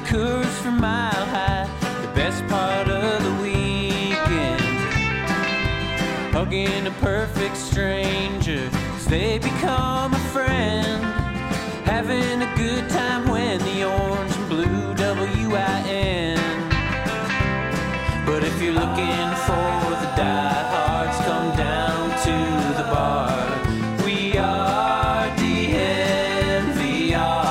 Coors from Mile High, the best part of the weekend. Hugging a perfect stranger as they become a friend. Having a good time when the orange and blue WIN. But if you're looking for the diehards, come down to the bar. We are DNVR.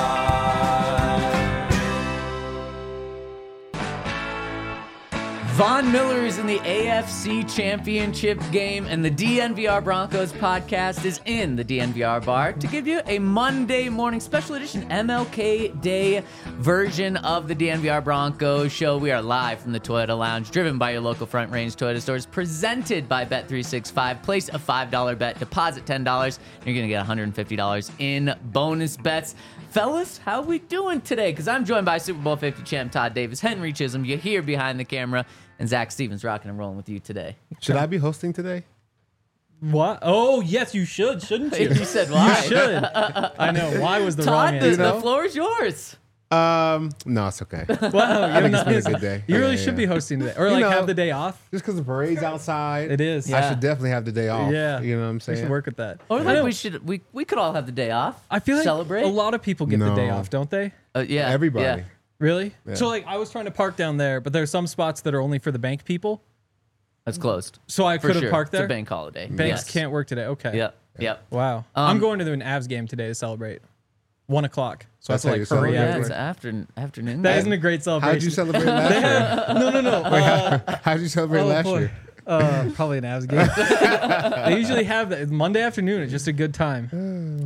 Von Miller is in the AFC Championship game, and the DNVR Broncos podcast is in the DNVR bar to give you a Monday morning special edition MLK Day version of the DNVR Broncos show. We are live from the Toyota Lounge, driven by your local Front Range Toyota stores, presented by Bet365. Place a $5 bet, deposit $10, and you're going to get $150 in bonus bets. Fellas, how we doing today? Because I'm joined by Super Bowl 50 champ Todd Davis, Henry Chisholm, you're here behind the camera, and Zach Stevens rocking and rolling with you today. Should I be hosting today? What? Oh, yes, you should, shouldn't you? You said why? You should. I know. Why was the wrong Todd, answer? the floor is yours. No, it's okay. Wow, I think it's been a good day. You really Yeah, should be yeah. hosting today. Or You like know, have the day off. Just because the parade's outside. It is. I should definitely have the day off. Yeah. You know what I'm We saying? should work with that. Or I like know. we could all have the day off. I feel like celebrate. a lot of people get the day No. off, don't they? Yeah, Everybody. yeah. Really? Yeah. So like I was trying to park down there, but there's some spots that are only for the bank people. That's closed. So I For could have sure. parked there. It's a bank holiday. Banks Yes. can't work today. Okay. Yep. Yep. Wow. I'm going to an Avs game today to celebrate. 1 o'clock. So That's I how have you to like hurry celebrate? Yeah, afterwards. it's afternoon. That isn't a great celebration. How'd you celebrate last year? No. How'd you celebrate last boy. year? Probably an Avs game. They usually have that Monday afternoon. It's just a good time.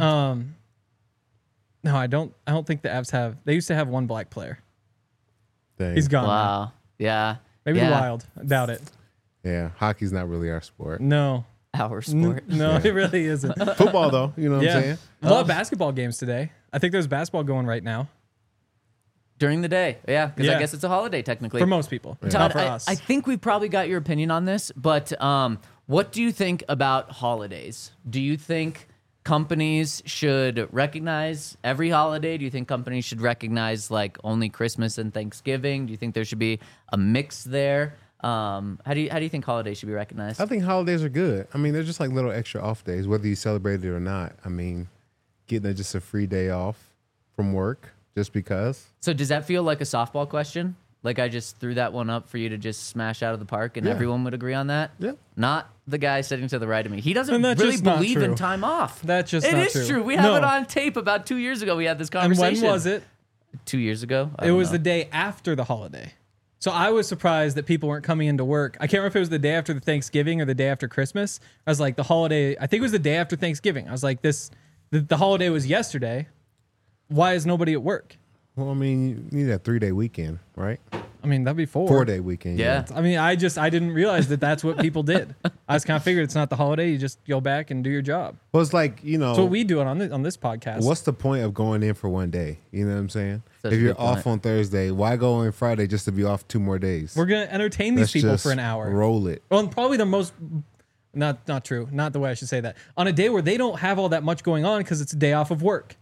No, I don't think the Avs have. They used to have one black player. Dang. He's gone. now. Wow. Yeah. Maybe yeah. the Wild. I doubt it. Yeah, hockey's not really our sport. No. Our sport. No, it really isn't. Football, though, you know what I'm saying? A lot of basketball games today. I think there's basketball going right now During the day. Yeah, because I Yeah. guess it's a holiday technically. for most people. Todd, Not for I, us. I think we probably got your opinion on this, but what do you think about holidays? Do you think companies should recognize every holiday? Do you think companies should recognize like only Christmas and Thanksgiving? Do you think there should be a mix there? How do you think holidays should be recognized? I think holidays are good. I mean, they're just like little extra off days, whether you celebrate it or not. I mean, getting just a free day off from work just because. So does that feel like a softball question? Like I just threw that one up for you to just smash out of the park and Yeah. everyone would agree on that? Yeah. Not the guy sitting to the right of me. He doesn't And that's really just not believe in true. time off. That's just It not is true. true. We have No. it on tape about 2 years ago. We had this And conversation. when was it? 2 years ago? I It don't was know. the day after the holiday. So I was surprised that people weren't coming into work. I can't remember if it was the day after the Thanksgiving or the day after Christmas. I was like, the holiday, I think it was the day after Thanksgiving. I was like, the holiday was yesterday. Why is nobody at work? Well, I mean, you need a 3-day weekend, right? I mean, that'd be 4. 4-day weekend. Yeah. I mean, I didn't realize that that's what people did. I just kind of figured it's not the holiday. You just go back and do your job. Well, it's like, you know. That's what we do it on this podcast. What's the point of going in for one day? You know what I'm saying? Such a if you're good point. off on Thursday, why go in Friday just to be off 2 more days? We're going to entertain these Let's people just for an hour. Roll it. Well, and probably the most, not true. Not the way I should say that. On a day where they don't have all that much going on because it's a day off of work.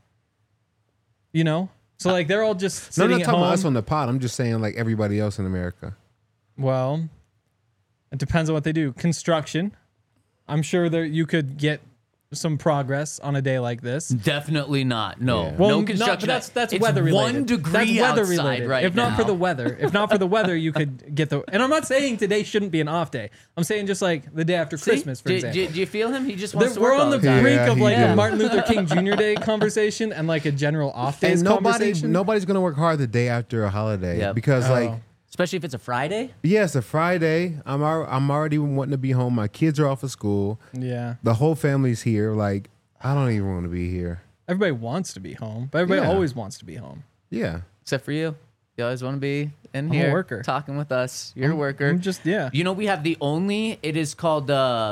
You know? So like they're all just No, I'm sitting not at talking home. about us on the pod. I'm just saying like everybody else in America. Well, it depends on what they do. Construction. I'm sure that you could get some progress on a day like this. Definitely not. No. Yeah. Well, no not- construction. but that's It's weather related. 1 degree That's weather outside related. right if not now. for the weather, you could get the. And I'm not saying today shouldn't be an off day. I'm saying just like the day after See? Christmas, for do, example. do you feel him? He just wants to We're work on all the the time. brink Yeah, of he like a does. Martin Luther King Jr. Day conversation and like a general off days And conversation. nobody's gonna work hard the day after a holiday Yep. because like Especially if it's a Friday. yeah, it's a Friday. I'm already wanting to be home. My kids are off of school. Yeah. The whole family's here. Like I don't even want to be here. Everybody wants to be home, but everybody Yeah. always wants to be home. Yeah. Except for you. You always want to be in I'm a here worker. talking with us. You're a worker. I'm just, yeah. You know, we have it is called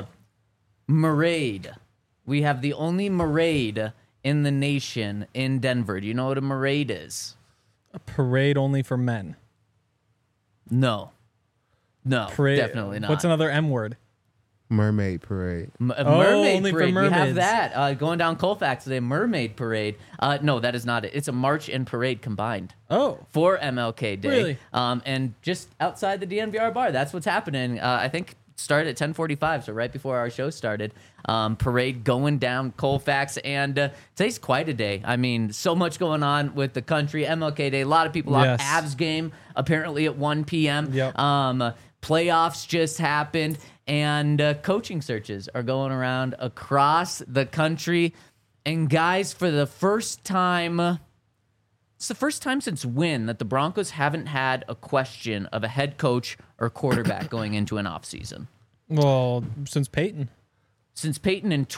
Marade. We have the only Marade in the nation in Denver. Do you know what a Marade is? A parade only for men. No. No, Parade. definitely not. What's another M word? Mermaid Parade. Mermaid only for Parade. We have mermaids. that going down Colfax today. Mermaid Parade. No, that is not it. It's a march and parade combined Oh, for MLK Day. Really? And just outside the DNVR bar, that's what's happening. I think started at 10:45, so right before our show started. Parade going down Colfax, and today's quite a day. I mean, so much going on with the country. MLK Day, a lot of people Yes. off. Avs game apparently at 1 p.m. Yep. Playoffs just happened, and coaching searches are going around across the country. And guys, for the first time, it's the first time since when that the Broncos haven't had a question of a head coach or quarterback going into an offseason. well, since Peyton. Since Peyton in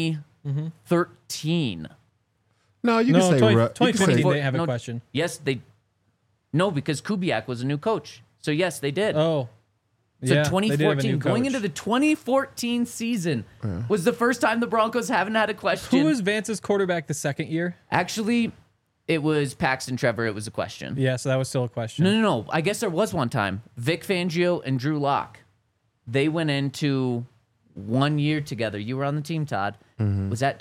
2013. No, you No, can say 2020 you can they have a No, question. Yes, they. No, because Kubiak was a new coach. So yes, they did. Oh, So yeah, they did have a 2014, new going coach. into the 2014 season, was the first time the Broncos haven't had a question. Who was Vance's quarterback the second year? Actually, it was Paxton Trevor. It was a question. Yeah, so that was still a question. No. I guess there was one time. Vic Fangio and Drew Lock, they went into 1 year together. You were on the team, Todd. Was that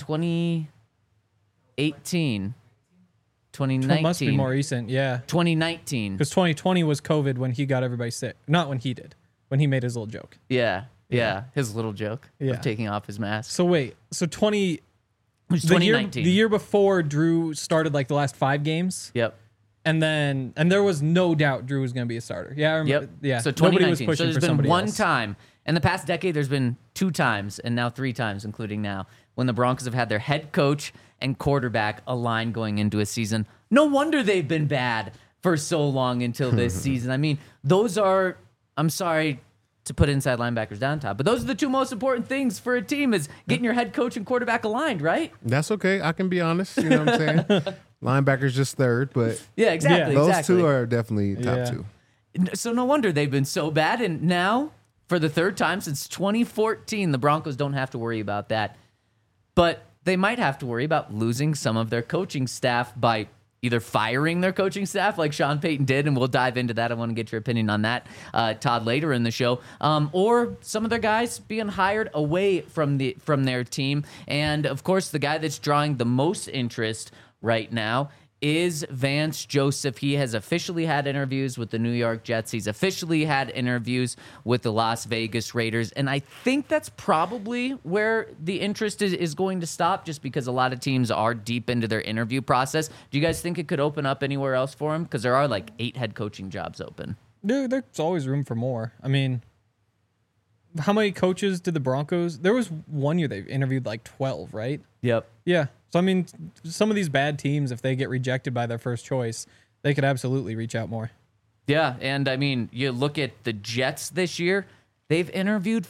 2018? 2019? It must be more recent, yeah. 2019. Because 2020 was COVID when he got everybody sick. Not when he did. When he made his little joke. Yeah. His little joke Yeah. of taking off his mask. So wait, so It was the year 2019. the year before Drew started like the last 5 games, Yep. and there was no doubt Drew was going to be a starter. Yeah, I remember. Yep. Yeah. So Nobody was 2019. pushing So there's for been somebody one else. time in the past decade. There's been 2 times, and now 3 times, including now, when the Broncos have had their head coach and quarterback aligned going into a season. No wonder they've been bad for so long until this season. I mean, those are. I'm sorry to put inside linebackers down top, but those are the 2 most important things for a team: is getting your head coach and quarterback aligned, right? That's okay. I can be honest. You know what I'm saying? Linebacker's just third, but Yeah, exactly. those exactly. 2 are definitely top Yeah. 2. So no wonder they've been so bad. And now, for the 3rd time since 2014, the Broncos don't have to worry about that. But they might have to worry about losing some of their coaching staff by either firing their coaching staff like Sean Payton did, and we'll dive into that. I want to get your opinion on that, Todd, later in the show, or some of their guys being hired away from their team. And, of course, the guy that's drawing the most interest right now is Vance Joseph. He has officially had interviews with the New York Jets. He's officially had interviews with the Las Vegas Raiders. And I think that's probably where the interest is going to stop, just because a lot of teams are deep into their interview process. Do you guys think it could open up anywhere else for him? Because there are like 8 head coaching jobs open. There's always room for more. I mean, how many coaches did the Broncos? There was 1 year they interviewed like 12, right? Yep. Yeah. So, I mean, some of these bad teams, if they get rejected by their first choice, they could absolutely reach out more. Yeah, and I mean, you look at the Jets this year, they've interviewed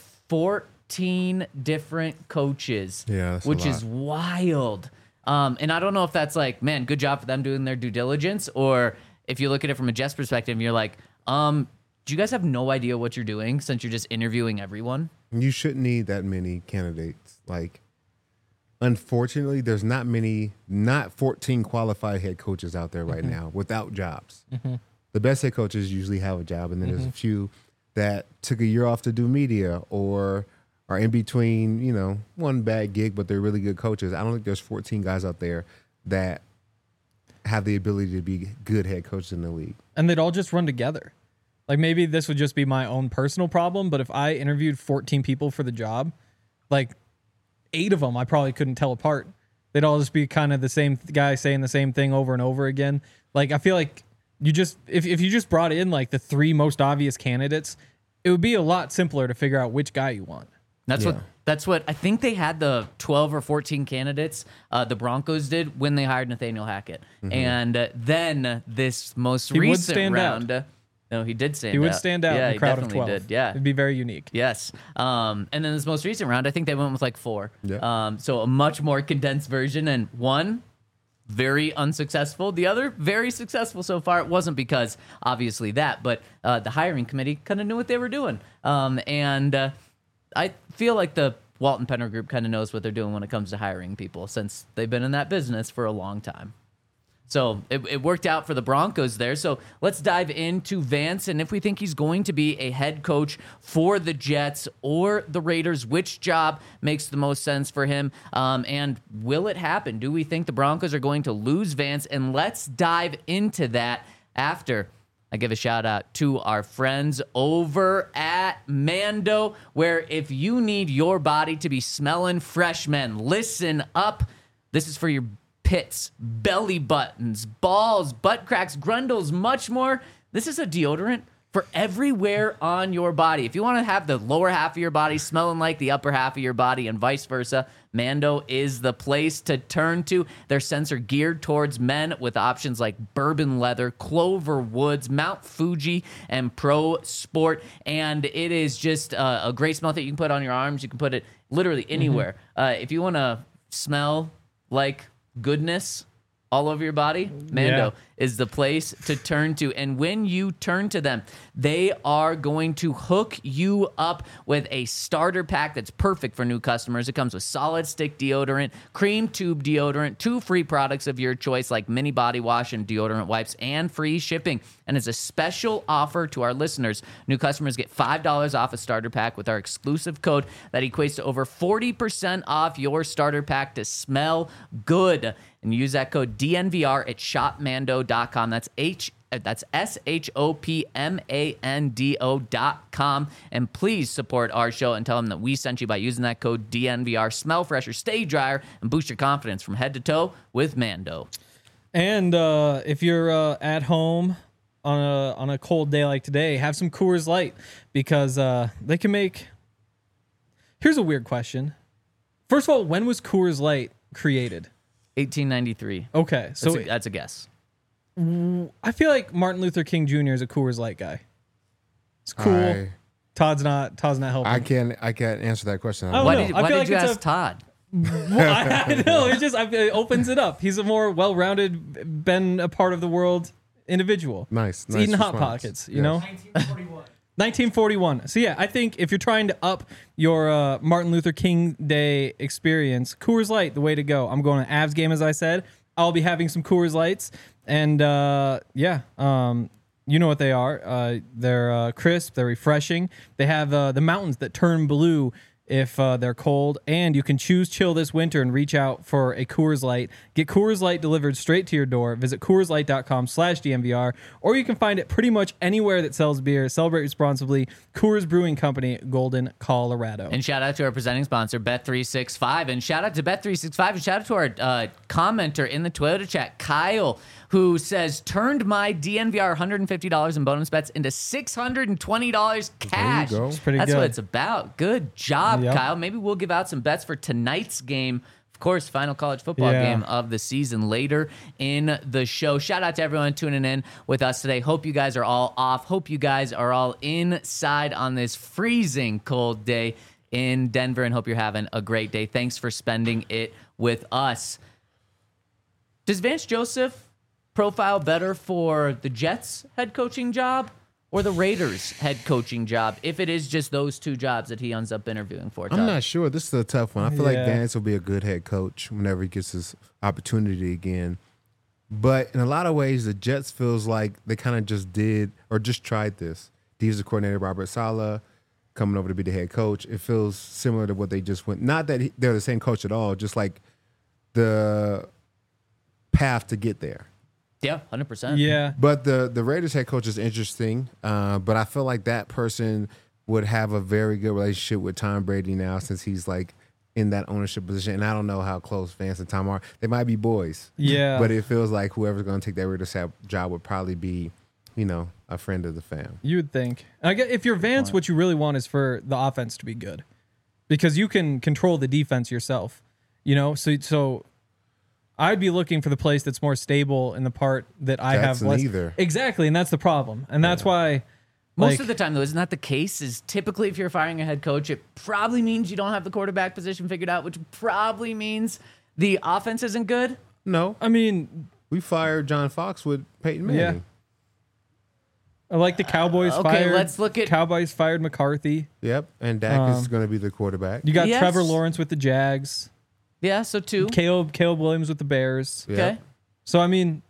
14 different coaches, Yeah, that's a which lot. is wild. And I don't know if that's like, man, good job for them doing their due diligence, or if you look at it from a Jets perspective, you're like, do you guys have no idea what you're doing since you're just interviewing everyone? You shouldn't need that many candidates. Like, unfortunately, there's not 14 qualified head coaches out there right now without jobs. The best head coaches usually have a job, and then there's a few that took a year off to do media or are in between, one bad gig, but they're really good coaches. I don't think there's 14 guys out there that have the ability to be good head coaches in the league. And they'd all just run together. Like, maybe this would just be my own personal problem, but if I interviewed 14 people for the job, like 8 of them I probably couldn't tell apart. They'd all just be kind of the same guy saying the same thing over and over again. Like, I feel like you just if you just brought in like the 3 most obvious candidates, it would be a lot simpler to figure out which guy you want. That's what I think they had the 12 or 14 candidates. The Broncos did when they hired Nathaniel Hackett, and then this most He would recent stand round. out. No, he did stand out. He would stand out Yeah, in he a crowd of definitely 12. did. Yeah, It'd be very unique. yes. And then this most recent round, I think they went with like 4. Yeah. So a much more condensed version, and one very unsuccessful. The other very successful so far. It wasn't because obviously that, but the hiring committee kind of knew what they were doing. And I feel like the Walton Penner Group kind of knows what they're doing when it comes to hiring people, since they've been in that business for a long time. So it worked out for the Broncos there. So let's dive into Vance and if we think he's going to be a head coach for the Jets or the Raiders, which job makes the most sense for him? And will it happen? Do we think the Broncos are going to lose Vance? And let's dive into that after I give a shout out to our friends over at Mando, where if you need your body to be smelling fresh, men, listen up. This is for your pits, belly buttons, balls, butt cracks, grundles, much more. This is a deodorant for everywhere on your body. If you want to have the lower half of your body smelling like the upper half of your body and vice versa, Mando is the place to turn to. Their scents are geared towards men with options like bourbon leather, clover woods, Mount Fuji, and Pro Sport. And it is just a great smell that you can put on your arms. You can put it literally anywhere. If you want to smell like goodness all over your body, Mando is the place to turn to. And when you turn to them, they are going to hook you up with a starter pack that's perfect for new customers. It comes with solid stick deodorant, cream tube deodorant, 2 free products of your choice like mini body wash and deodorant wipes, and free shipping. And as a special offer to our listeners, new customers get $5 off a starter pack with our exclusive code that equates to over 40% off your starter pack to smell good. And use that code DNVR at shopmando.com. That's SHOPMANDO.com. And please support our show and tell them that we sent you by using that code DNVR. Smell fresher, stay drier, and boost your confidence from head to toe with Mando. And if you're at home on a cold day like today, have some Coors Light because they can make... Here's a weird question. First of all, when was Coors Light created? 1893. Okay, so That's a guess. I feel like Martin Luther King Jr. is a Coors Light guy. It's cool. Todd's not helping. I can't answer that question. Oh, Why no, did I feel you like it's ask Todd? Well, I know it opens it up. He's a more well-rounded, been a part of the world individual. Nice. He's eating Hot Pockets, you know. 1941. So yeah, I think if you're trying to up your Martin Luther King Day experience, Coors Light, the way to go. I'm going to Avs game, as I said. I'll be having some Coors Lights, and you know what they are. They're crisp, they're refreshing. They have the mountains that turn blue if they're cold, and you can choose chill this winter and reach out for a Coors Light. Get Coors Light delivered straight to your door. Visit CoorsLight.com/DNVR, or you can find it pretty much anywhere that sells beer. Celebrate responsibly. Coors Brewing Company, Golden, Colorado. And shout out to our presenting sponsor, Bet365. And shout out to Bet365. And shout out to our commenter in the Toyota chat, Kyle, who says, turned my DNVR $150 in bonus bets into $620 cash. There you go. It's pretty That's good. what it's about. Good job, Yep. Kyle. Maybe we'll give out some bets for tonight's game. Of course, final college football game of the season later in the show. Shout out to everyone tuning in with us today. Hope you guys are all off. Hope you guys are all inside on this freezing cold day in Denver, and hope you're having a great day. Thanks for spending it with us. Does Vance Joseph profile better for the Jets head coaching job or the Raiders head coaching job, if it is just those two jobs that he ends up interviewing for? Todd? I'm not sure. This is a tough one. I feel like Yeah. Vance will be a good head coach whenever he gets his opportunity again. But in a lot of ways, the Jets feels like they kind of just did or just tried this. Defensive coordinator Robert Saleh coming over to be the head coach. It feels similar to what they just went. Not that they're the same coach at all, just like the path to get there. Yeah, 100%. Yeah. But the Raiders head coach is interesting. But I feel like that person would have a very good relationship with Tom Brady now, since he's like in that ownership position. And I don't know how close Vance and Tom are. They might be boys. Yeah. But it feels like whoever's going to take that Raiders job would probably be, you know, a friend of the fam. You would think. I guess if you're Vance, what you really want is for the offense to be good, because you can control the defense yourself. You know, so I'd be looking for the place that's more stable in the part that I have less. Neither. Exactly, and that's the problem, and that's why. Most of the time, though, isn't that the case? Is typically if you're firing a head coach, it probably means you don't have the quarterback position figured out, which probably means the offense isn't good. No, I mean, we fired John Fox with Peyton Manning. Yeah. I like the Cowboys Okay, fired. let's look at- Cowboys fired McCarthy. Yep. And Dak is going to be the quarterback. You got Yes. Trevor Lawrence with the Jags. Yeah, so two. Caleb Williams with the Bears. Yep. Okay. So I mean,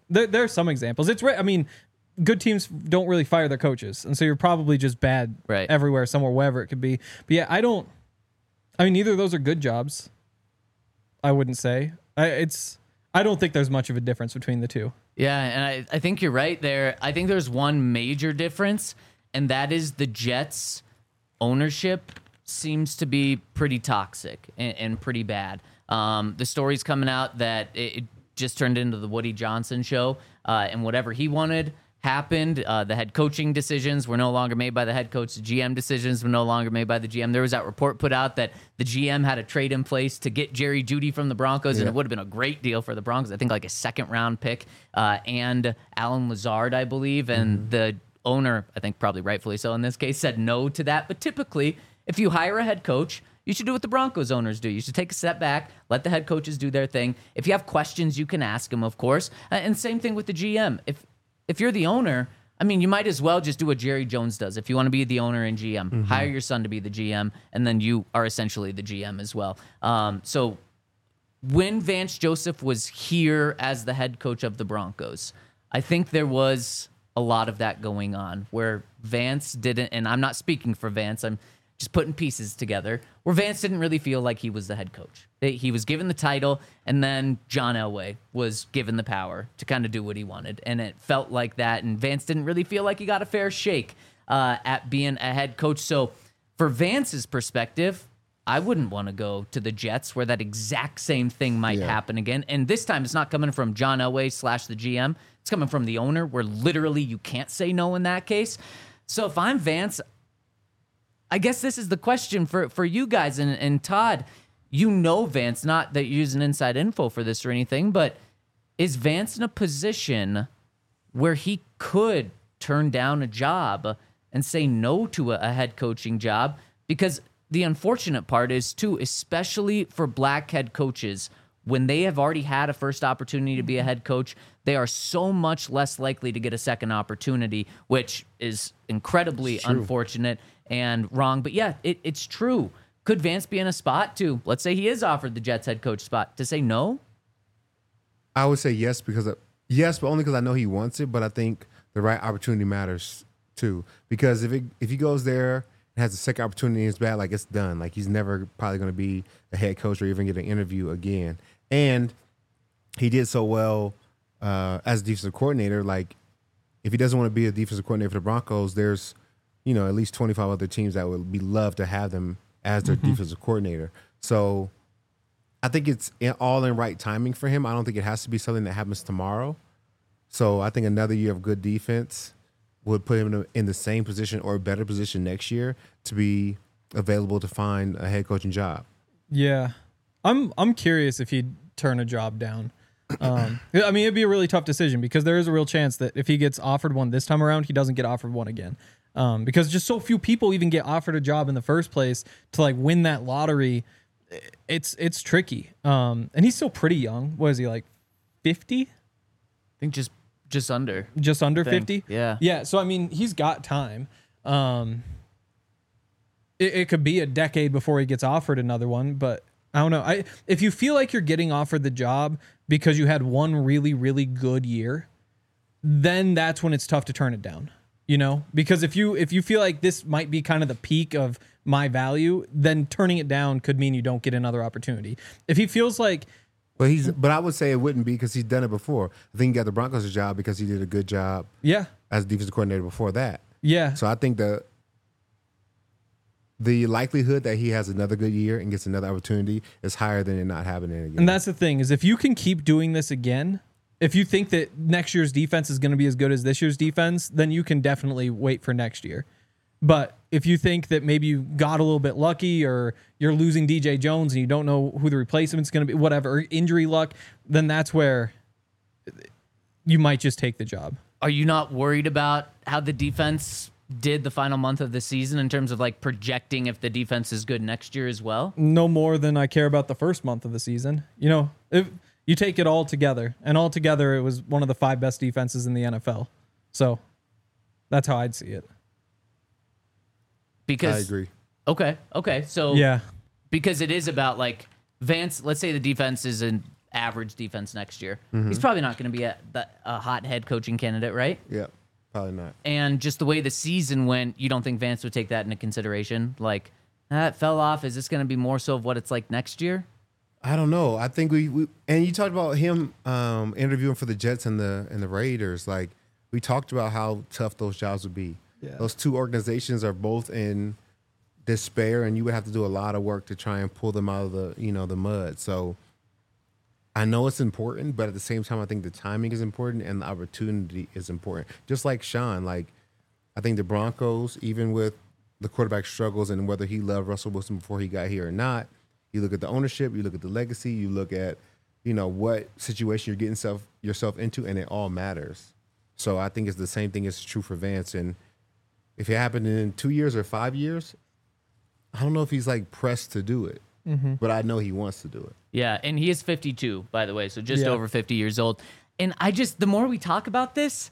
There are some examples. It's right. I mean, good teams don't really fire their coaches, and so you're probably just bad Right. everywhere, somewhere, wherever it could be. But yeah, I mean, neither of those are good jobs. I wouldn't say. I don't think there's much of a difference between the two. Yeah, and I think you're right there. I think there's one major difference, and that is the Jets' ownership seems to be pretty toxic and pretty bad. The story's coming out that it just turned into the Woody Johnson show, and whatever he wanted happened. The head coaching decisions were no longer made by the head coach. The GM decisions were no longer made by the GM. There was that report put out that the GM had a trade in place to get Jerry Jeudy from the Broncos, and it would have been a great deal for the Broncos. I think like a second-round pick and Alan Lazard, I believe, and the owner, I think probably rightfully so in this case, said no to that. But typically, if you hire a head coach, you should do what the Broncos owners do. You should take a step back, let the head coaches do their thing. If you have questions, you can ask them, of course. And same thing with the GM. If you're the owner, I mean, you might as well just do what Jerry Jones does. If you want to be the owner and GM, hire your son to be the GM, and then you are essentially the GM as well. So when Vance Joseph was here as the head coach of the Broncos, I think there was a lot of that going on where Vance didn't, and I'm not speaking for Vance, I'm just putting pieces together, where Vance didn't really feel like he was the head coach. He was given the title, and then John Elway was given the power to kind of do what he wanted. And it felt like that, and Vance didn't really feel like he got a fair shake at being a head coach. So for Vance's perspective, I wouldn't want to go to the Jets where that exact same thing might happen again. And this time it's not coming from John Elway / the GM. It's coming from the owner, where literally you can't say no in that case. So if I'm Vance, I guess this is the question for you guys. And Todd, you know Vance, not that you're using inside info for this or anything, but is Vance in a position where he could turn down a job and say no to a head coaching job? Because the unfortunate part is, too, especially for black head coaches, when they have already had a first opportunity to be a head coach, they are so much less likely to get a second opportunity, which is incredibly unfortunate and wrong. But yeah, it's true. Could Vance be in a spot to, let's say he is offered the Jets head coach spot, to say no? I would say yes, but only because I know he wants it. But I think the right opportunity matters too. Because if he goes there and has a second opportunity and it's bad, like it's done. Like he's never probably going to be a head coach or even get an interview again. And he did so well as a defensive coordinator. Like if he doesn't want to be a defensive coordinator for the Broncos, there's at least 25 other teams that would be love to have them as their defensive coordinator. So I think it's all in right timing for him. I don't think it has to be something that happens tomorrow. So I think another year of good defense would put him in the same position or a better position next year to be available to find a head coaching job. Yeah. I'm curious if he'd turn a job down. I mean, it'd be a really tough decision because there is a real chance that if he gets offered one this time around, he doesn't get offered one again. Because just so few people even get offered a job in the first place to like win that lottery. It's tricky. And he's still pretty young. What is he, like 50? I think just under. Just under 50? Yeah. Yeah. So I mean, he's got time. It could be a decade before he gets offered another one, but I don't know. If you feel like you're getting offered the job because you had one really, really good year, then that's when it's tough to turn it down. Because if you feel like this might be kind of the peak of my value, then turning it down could mean you don't get another opportunity. If he feels like, but I would say it wouldn't be because he's done it before. I think he got the Broncos a job because he did a good job. Yeah. As a defensive coordinator before that. Yeah. So I think the likelihood that he has another good year and gets another opportunity is higher than it not happening again. And that's the thing is if you can keep doing this again, if you think that next year's defense is going to be as good as this year's defense, then you can definitely wait for next year. But if you think that maybe you got a little bit lucky or you're losing DJ Jones and you don't know who the replacement's going to be, whatever, injury luck, then that's where you might just take the job. Are you not worried about how the defense did the final month of the season in terms of like projecting if the defense is good next year as well? No more than I care about the first month of the season. If you take it all together, and all together it was one of the 5 best defenses in the NFL. So that's how I'd see it. Because I agree. Okay. So yeah, because it is about like Vance, let's say the defense is average defense next year. He's probably not going to be a hot head coaching candidate, right? Yeah, probably not. And just the way the season went, you don't think Vance would take that into consideration? Like, that fell off. Is this going to be more so of what it's like next year? I don't know. I think we and you talked about him interviewing for the Jets and the Raiders. Like, we talked about how tough those jobs would be. Yeah. Those two organizations are both in despair, and you would have to do a lot of work to try and pull them out of the mud. So I know it's important, but at the same time, I think the timing is important and the opportunity is important. Just like Sean, like, I think the Broncos, even with the quarterback struggles and whether he loved Russell Wilson before he got here or not, you look at the ownership, you look at the legacy, you look at, what situation you're getting yourself into, and it all matters. So I think it's the same thing is true for Vance. And if it happened in 2 years or 5 years, I don't know if he's like pressed to do it, but I know he wants to do it. Yeah, and he is 52, by the way, so just Yeah. over 50 years old. And the more we talk about this,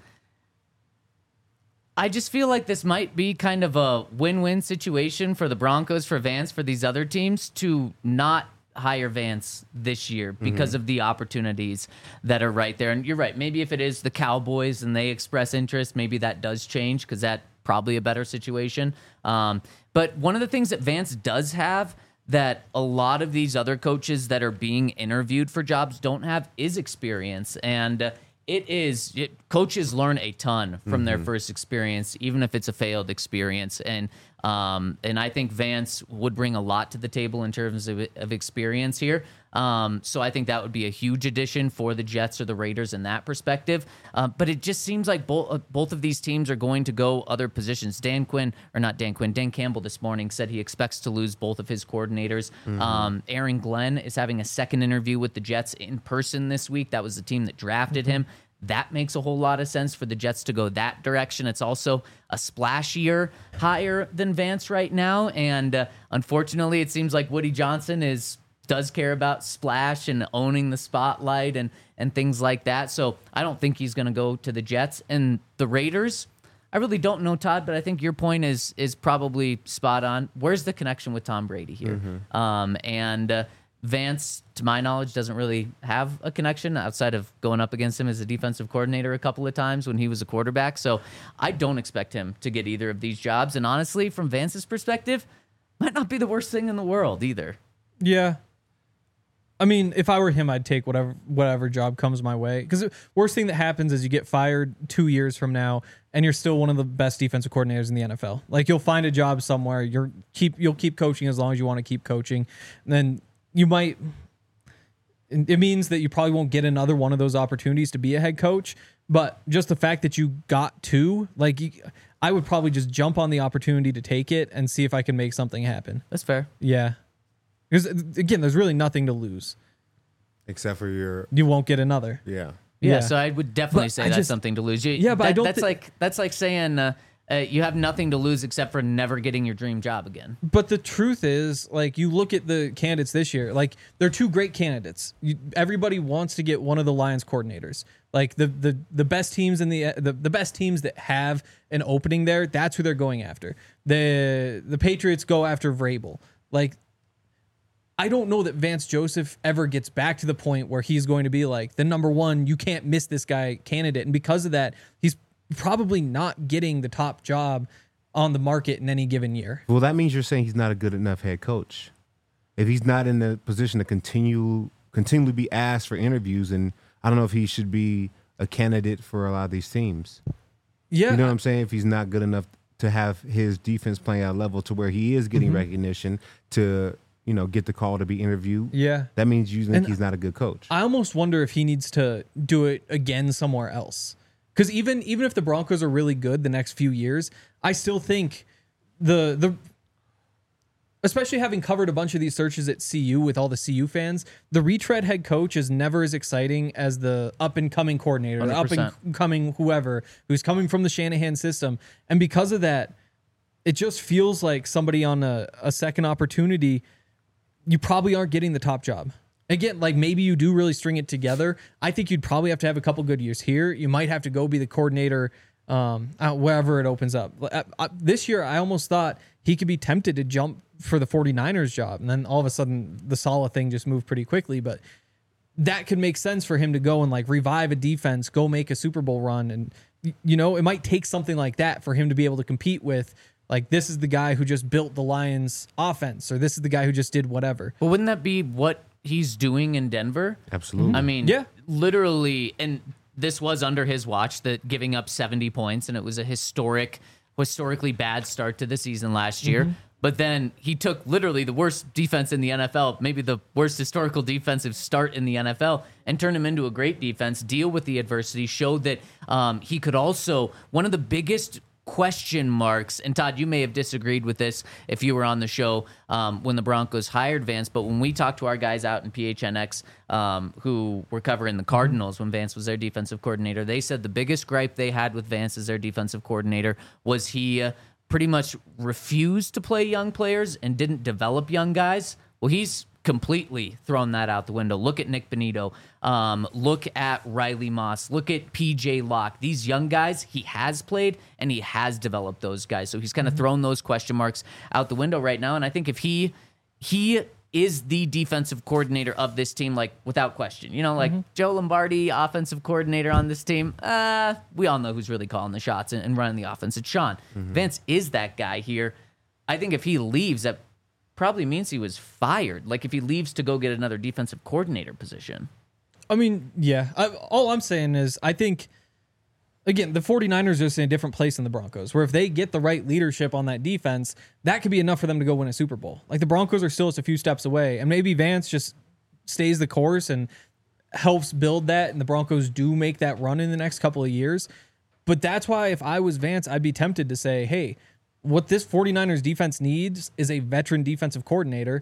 I just feel like this might be kind of a win-win situation for the Broncos, for Vance, for these other teams to not hire Vance this year because of the opportunities that are right there. And you're right, maybe if it is the Cowboys and they express interest, maybe that does change because that's probably a better situation. But one of the things that Vance does have that a lot of these other coaches that are being interviewed for jobs don't have is experience. And coaches learn a ton from their first experience, even if it's a failed experience. And I think Vance would bring a lot to the table in terms of experience here. So I think that would be a huge addition for the Jets or the Raiders in that perspective. But it just seems like both of these teams are going to go other positions. Dan Campbell this morning said he expects to lose both of his coordinators. Aaron Glenn is having a second interview with the Jets in person this week. That was the team that drafted him. That makes a whole lot of sense for the Jets to go that direction. It's also a splashier hire than Vance right now. And unfortunately, it seems like Woody Johnson does care about splash and owning the spotlight and things like that. So I don't think he's going to go to the Jets. And the Raiders, I really don't know, Todd, but I think your point is probably spot on. Where's the connection with Tom Brady here? Vance, to my knowledge, doesn't really have a connection outside of going up against him as a defensive coordinator a couple of times when he was a quarterback. So I don't expect him to get either of these jobs. And honestly, from Vance's perspective, might not be the worst thing in the world either. Yeah. I mean, if I were him, I'd take whatever job comes my way. Because the worst thing that happens is you get fired 2 years from now, and you're still one of the best defensive coordinators in the NFL. Like, you'll find a job somewhere. You'll keep coaching as long as you want to keep coaching. And then you might. It means that you probably won't get another one of those opportunities to be a head coach. But just the fact that you got two, I would probably just jump on the opportunity to take it and see if I can make something happen. That's fair. Yeah. Because, again, there's really nothing to lose. Except for you won't get another. Yeah, so I would definitely say that's something to lose. That's like saying you have nothing to lose except for never getting your dream job again. But the truth is, you look at the candidates this year, they're two great candidates. Everybody wants to get one of the Lions coordinators. The best teams in the best teams that have an opening there, that's who they're going after. The Patriots go after Vrabel. I don't know that Vance Joseph ever gets back to the point where he's going to be the number one, you can't miss this guy candidate. And because of that, he's probably not getting the top job on the market in any given year. Well, that means you're saying he's not a good enough head coach. If he's not in the position to continually be asked for interviews, and I don't know if he should be a candidate for a lot of these teams. Yeah. You know what I'm saying? If he's not good enough to have his defense playing at a level to where he is getting recognition to get the call to be interviewed. Yeah. That means you think he's not a good coach. I almost wonder if he needs to do it again somewhere else. Because even if the Broncos are really good the next few years, I still think especially having covered a bunch of these searches at CU with all the CU fans, the retread head coach is never as exciting as the up-and-coming coordinator, 100%. the up-and-coming whoever who's coming from the Shanahan system. And because of that, it just feels like somebody on a second opportunity, you probably aren't getting the top job. Again, maybe you do really string it together. I think you'd probably have to have a couple good years here. You might have to go be the coordinator wherever it opens up. This year, I almost thought he could be tempted to jump for the 49ers job. And then all of a sudden, the Saleh thing just moved pretty quickly. But that could make sense for him to go and like revive a defense, go make a Super Bowl run. And, you know, it might take something like that for him to be able to compete with, like, this is the guy who just built the Lions offense, or this is the guy who just did whatever. But wouldn't that be what he's doing in Denver? Absolutely. I mean, Yeah. literally, and this was under his watch, that giving up 70 points, and it was a historically bad start to the season last year. But then he took literally the worst defense in the NFL, maybe the worst historical defensive start in the NFL, and turned him into a great defense, deal with the adversity, showed that he could also, one of the biggest question marks, and Todd, you may have disagreed with this if you were on the show when the Broncos hired Vance, but when we talked to our guys out in PHNX who were covering the Cardinals when Vance was their defensive coordinator, they said the biggest gripe they had with Vance as their defensive coordinator was he pretty much refused to play young players and didn't develop young guys. Well, he's completely thrown that out the window. Look at Nick Bonito. Look at Riley Moss. Look at PJ Locke. These young guys, he has played and he has developed those guys. So he's kind of thrown those question marks out the window right now. And I think if he is the defensive coordinator of this team, like, without question. You know, like Joe Lombardi, offensive coordinator on this team, we all know who's really calling the shots and running the offense. It's Sean. Vance is that guy here. I think if he leaves, that probably means he was fired. Like, if he leaves to go get another defensive coordinator position. I mean, yeah. All I'm saying is I think, again, the 49ers are just in a different place than the Broncos, where if they get the right leadership on that defense, that could be enough for them to go win a Super Bowl. Like, the Broncos are still just a few steps away, and maybe Vance just stays the course and helps build that, and the Broncos do make that run in the next couple of years. But that's why if I was Vance, I'd be tempted to say, hey, what this 49ers defense needs is a veteran defensive coordinator.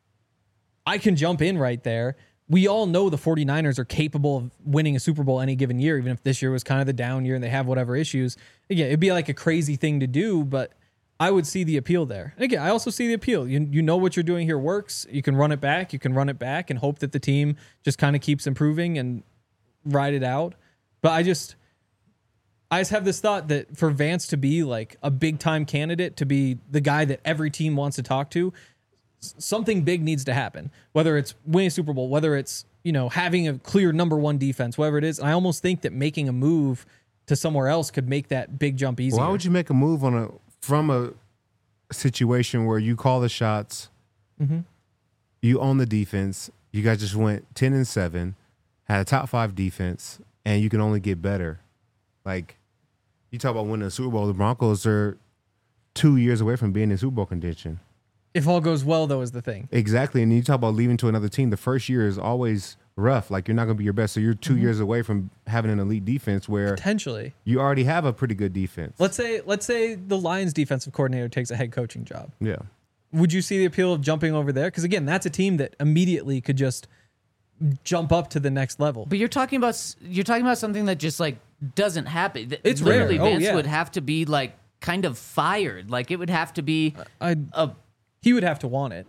I can jump in right there. We all know the 49ers are capable of winning a Super Bowl any given year, even if this year was kind of the down year and they have whatever issues. Again, it'd be like a crazy thing to do, but I would see the appeal there. And again, I also see the appeal. You know what you're doing here works. You can run it back. You can run it back and hope that the team just kind of keeps improving and ride it out. But I just have this thought that for Vance to be like a big time candidate, to be the guy that every team wants to talk to, something big needs to happen, whether it's winning a Super Bowl, whether it's, you know, having a clear number one defense, whatever it is. And I almost think that making a move to somewhere else could make that big jump easier. Why would you make a move from a situation where you call the shots, you own the defense, you guys just went 10-7, had a top 5 defense, and you can only get better? Like, you talk about winning a Super Bowl, the Broncos are 2 years away from being in Super Bowl contention. If all goes well, though, is the thing. Exactly. And you talk about leaving to another team. The first year is always rough. Like, you're not going to be your best. So you're 2 years away from having an elite defense where Potentially. you already have a pretty good defense. Let's say the Lions defensive coordinator takes a head coaching job. Yeah. Would you see the appeal of jumping over there? Because again, that's a team that immediately could just jump up to the next level. But you're talking about something that just like doesn't happen. It's literally rare. Oh, Vance yeah. would have to be like kind of fired. Like, it would have to be He would have to want it.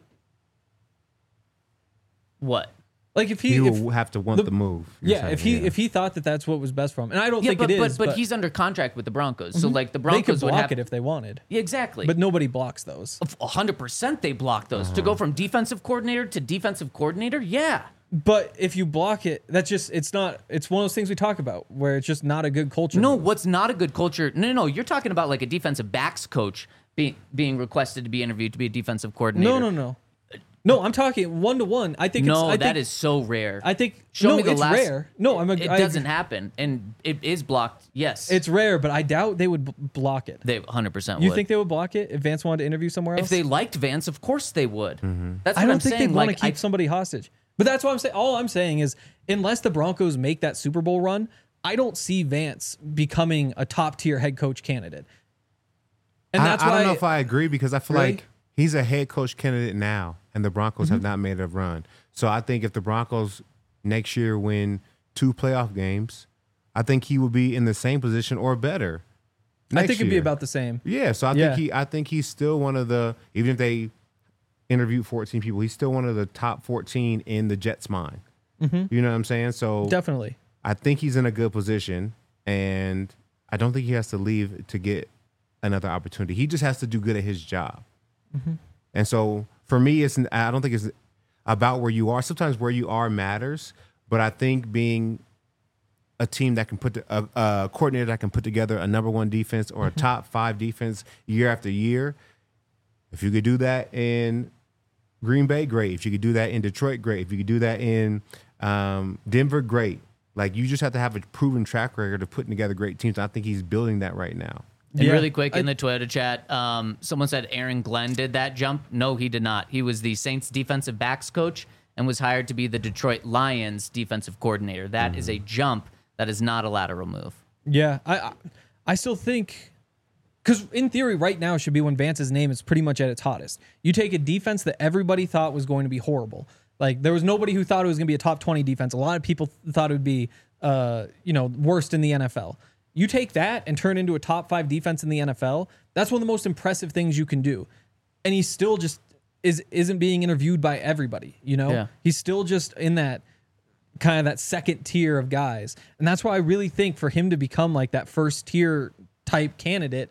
what? Like if He will have to want the move. you're Yeah, saying, if he thought that that's what was best for him, and I don't Yeah, think but, it is. but he's under contract with the Broncos, so like the they Broncos could would block have it if they wanted, Yeah, exactly. but nobody blocks those. 100% they block those to go from defensive coordinator to defensive coordinator. Yeah. But if you block it, that's just it's one of those things we talk about where it's just not a good culture. No, move. what's not a good culture? No. You're talking about like a defensive backs coach being requested to be interviewed to be a defensive coordinator. No, I'm talking 1-to-1. I think That is so rare. I think Show me the it's last. rare. No, it doesn't happen, and it is blocked. Yes, It's rare, but I doubt they would block it. they 100% You would. think they would block it if Vance wanted to interview somewhere else? If they liked Vance, of course they would. That's what I don't I'm think saying. they'd want to Like, keep somebody hostage. But that's what I'm saying. All I'm saying is, unless the Broncos make that Super Bowl run, I don't see Vance becoming a top tier head coach candidate. And that's I why don't know if I agree, because I feel Really? like he's a head coach candidate now, and the Broncos have not made a run. So I think if the Broncos next year win 2 playoff games, I think he will be in the same position or better. I think it'd be year. about the same. Yeah, so I think he's still one of the, even if they interviewed 14 people, he's still one of the top 14 in the Jets' mind. You know what I'm saying? So Definitely. I think he's in a good position, and I don't think he has to leave to get another opportunity. He just has to do good at his job. And so for me, I don't think it's about where you are. Sometimes where you are matters, But I think being a team that can put a coordinator that can put together a number one defense or a top 5 defense year after year, if you could do that in Green Bay, great. If you could do that in Detroit, great. If you could do that in Denver, great. Like, you just have to have a proven track record of putting together great teams. I think he's building that right now. And really quick, in the Toyota chat, someone said Aaron Glenn did that jump. No, he did not. He was the Saints defensive backs coach and was hired to be the Detroit Lions defensive coordinator. That is a jump. That is not a lateral move. Yeah, I still think, because in theory right now should be when Vance's name is pretty much at its hottest. You take a defense that everybody thought was going to be horrible. Like, there was nobody who thought it was going to be a top 20 defense. A lot of people thought it would be, worst in the NFL. You take that and turn it into a top 5 defense in the NFL. That's one of the most impressive things you can do. And he still just isn't being interviewed by everybody. Yeah. He's still just in that kind of that second tier of guys. And that's why I really think for him to become like that first tier type candidate,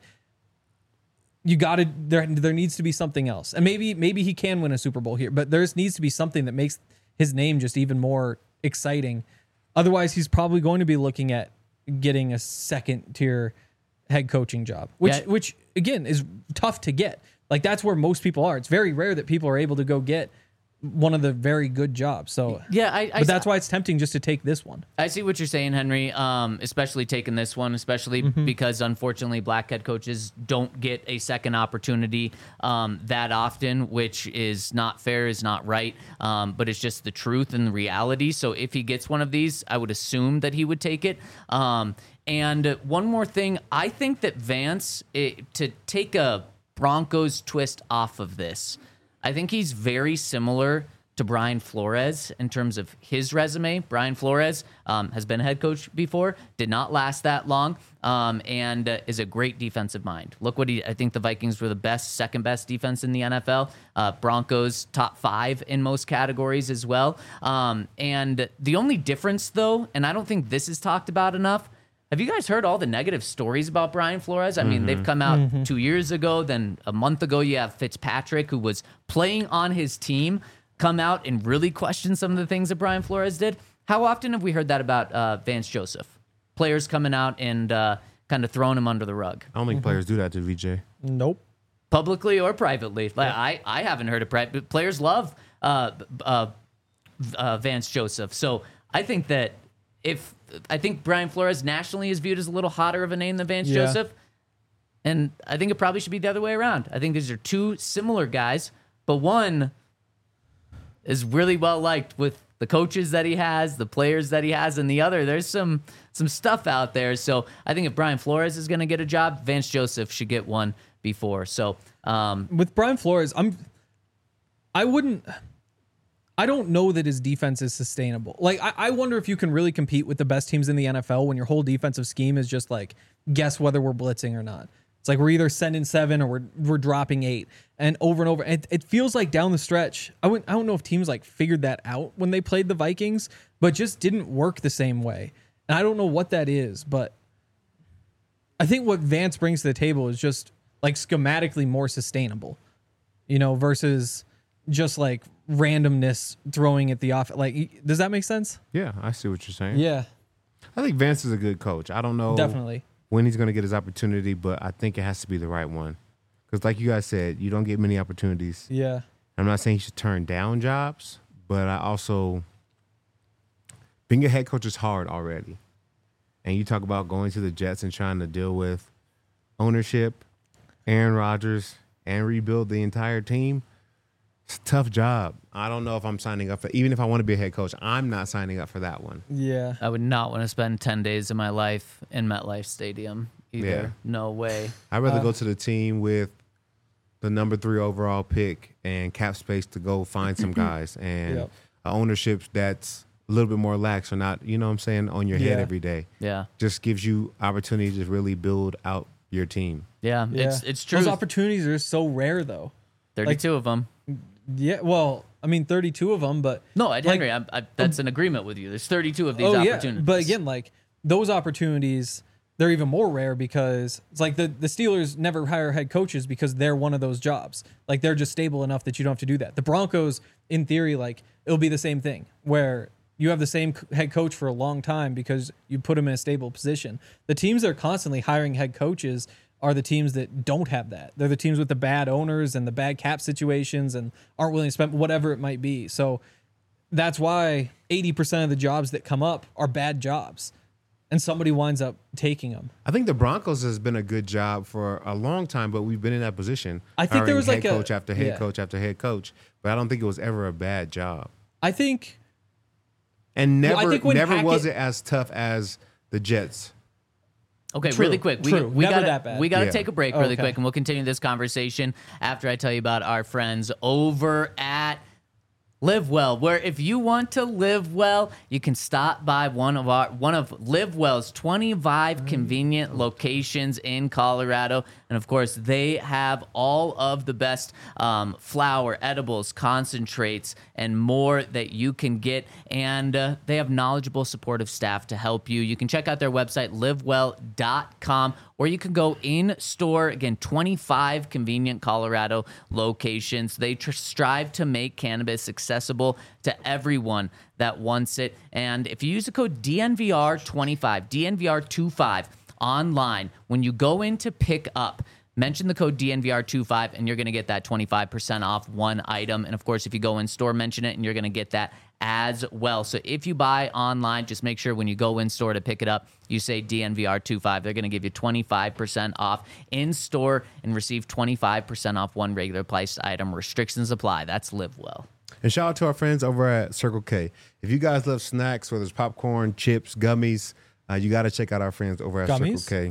there needs to be something else. And maybe he can win a Super Bowl here, but there needs to be something that makes his name just even more exciting. Otherwise, he's probably going to be looking at getting a second tier head coaching job, which again is tough to get. Like, that's where most people are. It's very rare that people are able to go get one of the very good jobs. So but that's why it's tempting just to take this one. I see what you're saying, Henry. Especially taking this one, especially because unfortunately black head coaches don't get a second opportunity that often, which is not fair, is not right. But it's just the truth and the reality. So if he gets one of these, I would assume that he would take it. And one more thing, I think that Vance, to take a Broncos twist off of this, I think he's very similar to Brian Flores in terms of his resume. Brian Flores has been a head coach before, did not last that long, and is a great defensive mind. Look what I think the Vikings were the second best defense in the NFL. Broncos top 5 in most categories as well. And the only difference, though, and I don't think this is talked about enough, have you guys heard all the negative stories about Brian Flores? I mean, they've come out 2 years ago. Then a month ago, you have Fitzpatrick, who was playing on his team, come out and really question some of the things that Brian Flores did. How often have we heard that about Vance Joseph? Players coming out and kind of throwing him under the rug. I don't think players do that to VJ. Nope. Publicly or privately. Like, I haven't heard it. Players love Vance Joseph. So I think that I think Brian Flores nationally is viewed as a little hotter of a name than Vance Joseph. And I think it probably should be the other way around. I think these are two similar guys, but one is really well liked with the coaches that he has, the players that he has, and the other, there's some stuff out there. So I think if Brian Flores is going to get a job, Vance Joseph should get one before. So with Brian Flores, I don't know that his defense is sustainable. Like, I wonder if you can really compete with the best teams in the NFL when your whole defensive scheme is just like, guess whether we're blitzing or not. It's like we're either sending 7 or we're dropping 8, and over. It feels like down the stretch, I don't know if teams like figured that out when they played the Vikings, but just didn't work the same way. And I don't know what that is, but I think what Vance brings to the table is just like schematically more sustainable, versus just like randomness throwing at the off. Like, does that make sense? Yeah, I see what you're saying. Yeah. I think Vance is a good coach. I don't know Definitely when he's going to get his opportunity, but I think it has to be the right one. Because like you guys said, you don't get many opportunities. Yeah. I'm not saying he should turn down jobs, but I also, being a head coach is hard already. And you talk about going to the Jets and trying to deal with ownership, Aaron Rodgers, and rebuild the entire team. It's a tough job. I don't know if I'm signing up for, even if I want to be a head coach, I'm not signing up for that one. Yeah. I would not want to spend 10 days of my life in MetLife Stadium either. Yeah. No way. I'd rather go to the team with the number 3 overall pick and cap space to go find some guys and Yep. ownership that's a little bit more lax or not, you know what I'm saying, on your head every day. Yeah. Just gives you opportunity to really build out your team. Yeah. Yeah. It's true. Those opportunities are so rare, though. 32 of them. Yeah, well, I mean, 32 of them, but No, Henry, that's an agreement with you. There's 32 of these opportunities. Yeah. But again, like those opportunities, they're even more rare because it's like the Steelers never hire head coaches because they're one of those jobs. Like, they're just stable enough that you don't have to do that. The Broncos, in theory, like it'll be the same thing where you have the same head coach for a long time because you put him in a stable position. The teams that are constantly hiring head coaches are the teams that don't have that. They're the teams with the bad owners and the bad cap situations and aren't willing to spend whatever it might be. So that's why 80% of the jobs that come up are bad jobs, and somebody winds up taking them. I think the Broncos has been a good job for a long time, but we've been in that position. I think there was hiring like head coach after head yeah. coach after head coach, but I don't think it was ever a bad job. I think And Well, I never, think when never was Hackett- it as tough as the Jets. Okay, True, really quick. true. We Never gotta, that bad. We got to Yeah. take a break really Okay. quick, and we'll continue this conversation after I tell you about our friends over at Live Well, where if you want to live well, you can stop by one of Live Well's 25 convenient locations in Colorado, and of course, they have all of the best flour, edibles, concentrates, and more that you can get, and they have knowledgeable, supportive staff to help you. You can check out their website, livewell.com, or you can go in store. Again, 25 convenient Colorado locations. They strive to make cannabis accessible to everyone that wants it. And if you use the code DNVR25, DNVR25 online, when you go in to pick up, mention the code DNVR25 and you're going to get that 25% off one item. And of course, if you go in store, mention it and you're going to get that as well. So if you buy online, just make sure when you go in store to pick it up, you say DNVR25. They're going to give you 25% off in store and receive 25% off one regular priced item. Restrictions apply. That's Live Well. And shout out to our friends over at Circle K. If you guys love snacks, whether it's popcorn, chips, gummies, you got to check out our friends over at Gummies? Circle K.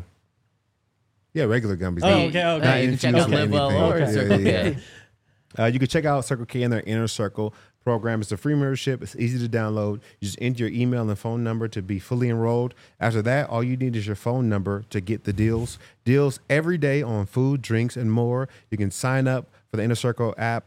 Yeah, regular gummies. Oh, Not- okay, okay. not You can check infused out with Live Well anything. or Yeah, Circle yeah, K. yeah. You can check out Circle K and their Inner Circle program. It's a free membership. It's easy to download. You just enter your email and phone number to be fully enrolled. After that, all you need is your phone number to get the deals. Deals every day on food, drinks, and more. You can sign up for the Inner Circle app,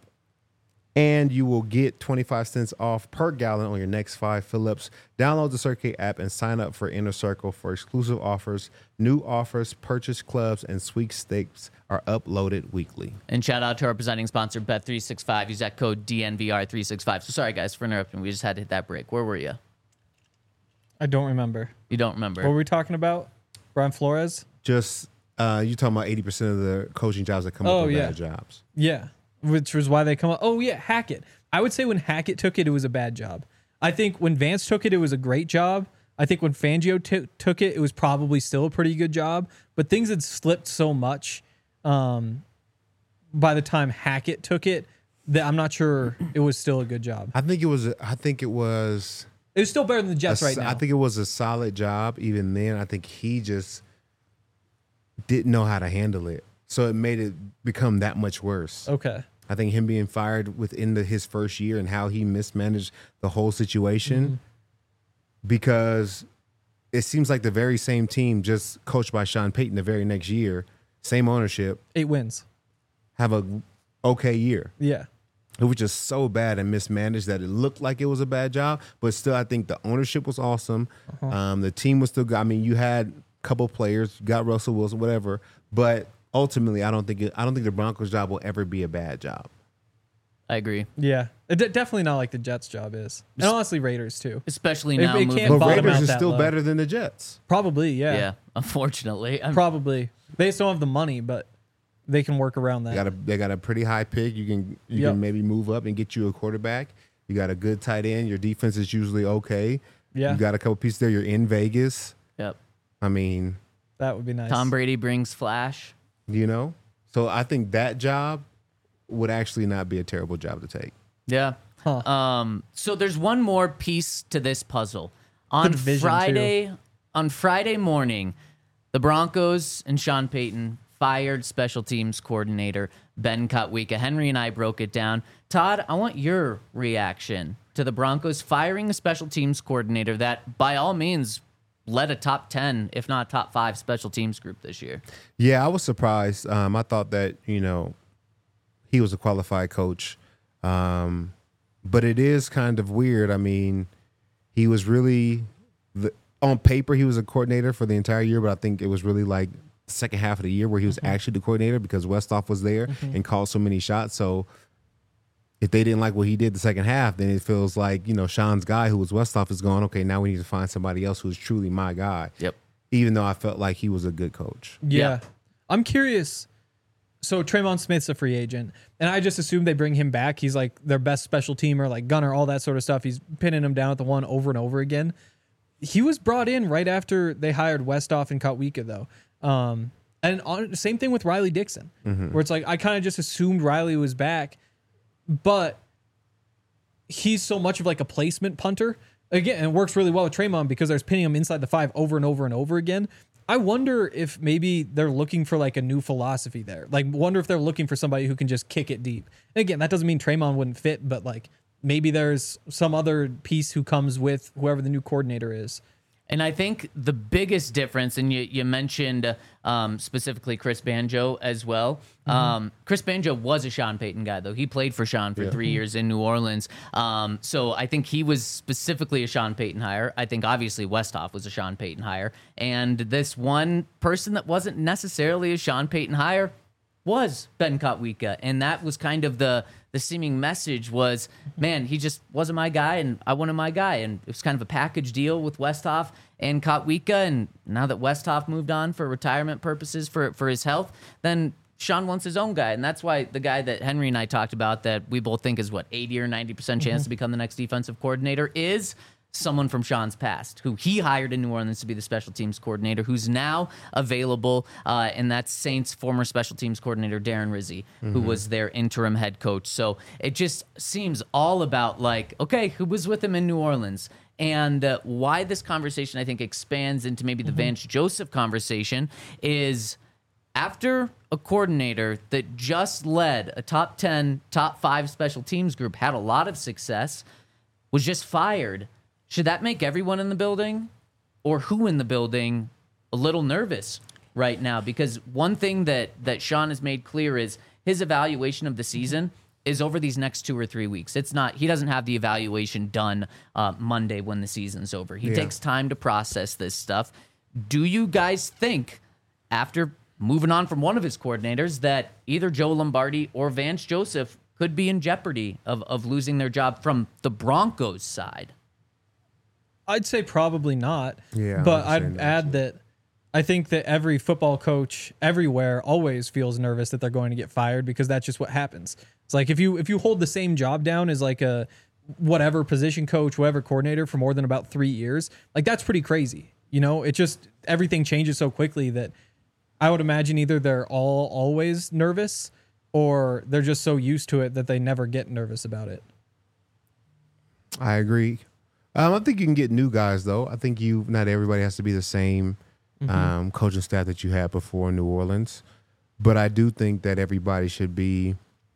and you will get 25 cents off per gallon on your next 5 fill-ups. Download the Circle K app and sign up for Inner Circle for exclusive offers. New offers, purchase clubs, and sweepstakes are uploaded weekly. And shout out to our presenting sponsor, Bet365. Use that code DNVR365. So sorry, guys, for interrupting. We just had to hit that break. Where were you? I don't remember. You don't remember. What were we talking about? Brian Flores? Just you talking about 80% of the coaching jobs that come up with bad jobs. Yeah, which was why they come up. Oh, yeah, Hackett. I would say when Hackett took it, it was a bad job. I think when Vance took it, it was a great job. I think when Fangio took it, it was probably still a pretty good job. But things had slipped so much by the time Hackett took it that I'm not sure it was still a good job. I think it was. It was still better than the Jets right now. I think it was a solid job. Even then, I think he just didn't know how to handle it, so it made it become that much worse. Okay. I think him being fired within his first year and how he mismanaged the whole situation, because it seems like the very same team, just coached by Sean Payton the very next year, same ownership, 8 wins. have a okay year. Yeah. It was just so bad and mismanaged that it looked like it was a bad job. But still, I think the ownership was awesome. The team was still good. I mean, you had a couple players, you got Russell Wilson, whatever. But ultimately, I don't think the Broncos' job will ever be a bad job. I agree. Yeah. Definitely not like the Jets' job is. And honestly, Raiders too. Especially It- now it moving can't But bottom Raiders out is that still low. better than the Jets. Probably, yeah. Yeah, unfortunately. Probably. They just don't have the money, but they can work around that. They got a pretty high pick. You Yep. can maybe move up and get you a quarterback. You got a good tight end. Your defense is usually okay. Yeah. You got a couple pieces there. You're in Vegas. Yep. I mean, That would be nice. Tom Brady brings flash. So I think that job would actually not be a terrible job to take. Yeah. So there's one more piece to this puzzle. On division, Friday morning, the Broncos and Sean Payton fired special teams coordinator Ben Kotwika. Henry and I broke it down. Todd, I want your reaction to the Broncos firing a special teams coordinator that, by all means, led a top 10, if not top 5 special teams group this year. Yeah, I was surprised. I thought that, he was a qualified coach. But it is kind of weird. I mean, he was really, on paper, he was a coordinator for the entire year, but I think it was really like the second half of the year where he was actually the coordinator because Westhoff was there and called so many shots. So if they didn't like what he did the second half, then it feels like, Sean's guy, who was Westhoff, is going, okay, now we need to find somebody else who's truly my guy. Yep. Even though I felt like he was a good coach. Yeah. I'm curious. So Tremon Smith's a free agent, and I just assumed they bring him back. He's like their best special teamer, like gunner, all that sort of stuff. He's pinning him down at the one over and over again. He was brought in right after they hired Westhoff and Kotwica, though. Same thing with Riley Dixon, where it's like I kind of just assumed Riley was back, but he's so much of like a placement punter. Again, it works really well with Tremon because there's pinning him inside the 5 over and over and over again. I wonder if maybe they're looking for like a new philosophy there. Like, wonder if they're looking for somebody who can just kick it deep. And again, that doesn't mean Tremon wouldn't fit, but like maybe there's some other piece who comes with whoever the new coordinator is. And I think the biggest difference, and you mentioned specifically Chris Banjo as well. Chris Banjo was a Sean Payton guy, though. He played for Sean for 3 years in New Orleans. So I think he was specifically a Sean Payton hire. I think obviously Westhoff was a Sean Payton hire. And this one person that wasn't necessarily a Sean Payton hire was Ben Kotwica. And that was kind of the seeming message was, man, he just wasn't my guy, and I wanted my guy. And it was kind of a package deal with Westhoff and Kotwica. And now that Westhoff moved on for retirement purposes for his health, then Sean wants his own guy. And that's why the guy that Henry and I talked about that we both think is, 80 or 90% chance to become the next defensive coordinator is someone from Sean's past, who he hired in New Orleans to be the special teams coordinator, who's now available, and that's Saints' former special teams coordinator, Darren Rizzi, who was their interim head coach. So it just seems all about like, okay, who was with him in New Orleans? And why this conversation, I think, expands into maybe the Vance Joseph conversation is after a coordinator that just led a top 10, top 5 special teams group, had a lot of success, was just fired. Should that make everyone in the building or who in the building a little nervous right now? Because one thing that Sean has made clear is his evaluation of the season is over these next 2 or 3 weeks. It's not, he doesn't have the evaluation done Monday when the season's over. He takes time to process this stuff. Do you guys think, after moving on from one of his coordinators, that either Joe Lombardi or Vance Joseph could be in jeopardy of losing their job from the Broncos side? I'd say probably not. Yeah, but I'm I'd add that I think that every football coach everywhere always feels nervous that they're going to get fired because that's just what happens. It's like if you hold the same job down as like a whatever position coach, whatever coordinator for more than about 3 years, like that's pretty crazy. It just everything changes so quickly that I would imagine either they're always nervous or they're just so used to it that they never get nervous about it. I agree. I think you can get new guys, though. I think not everybody has to be the same coaching staff that you had before in New Orleans. But I do think that everybody should be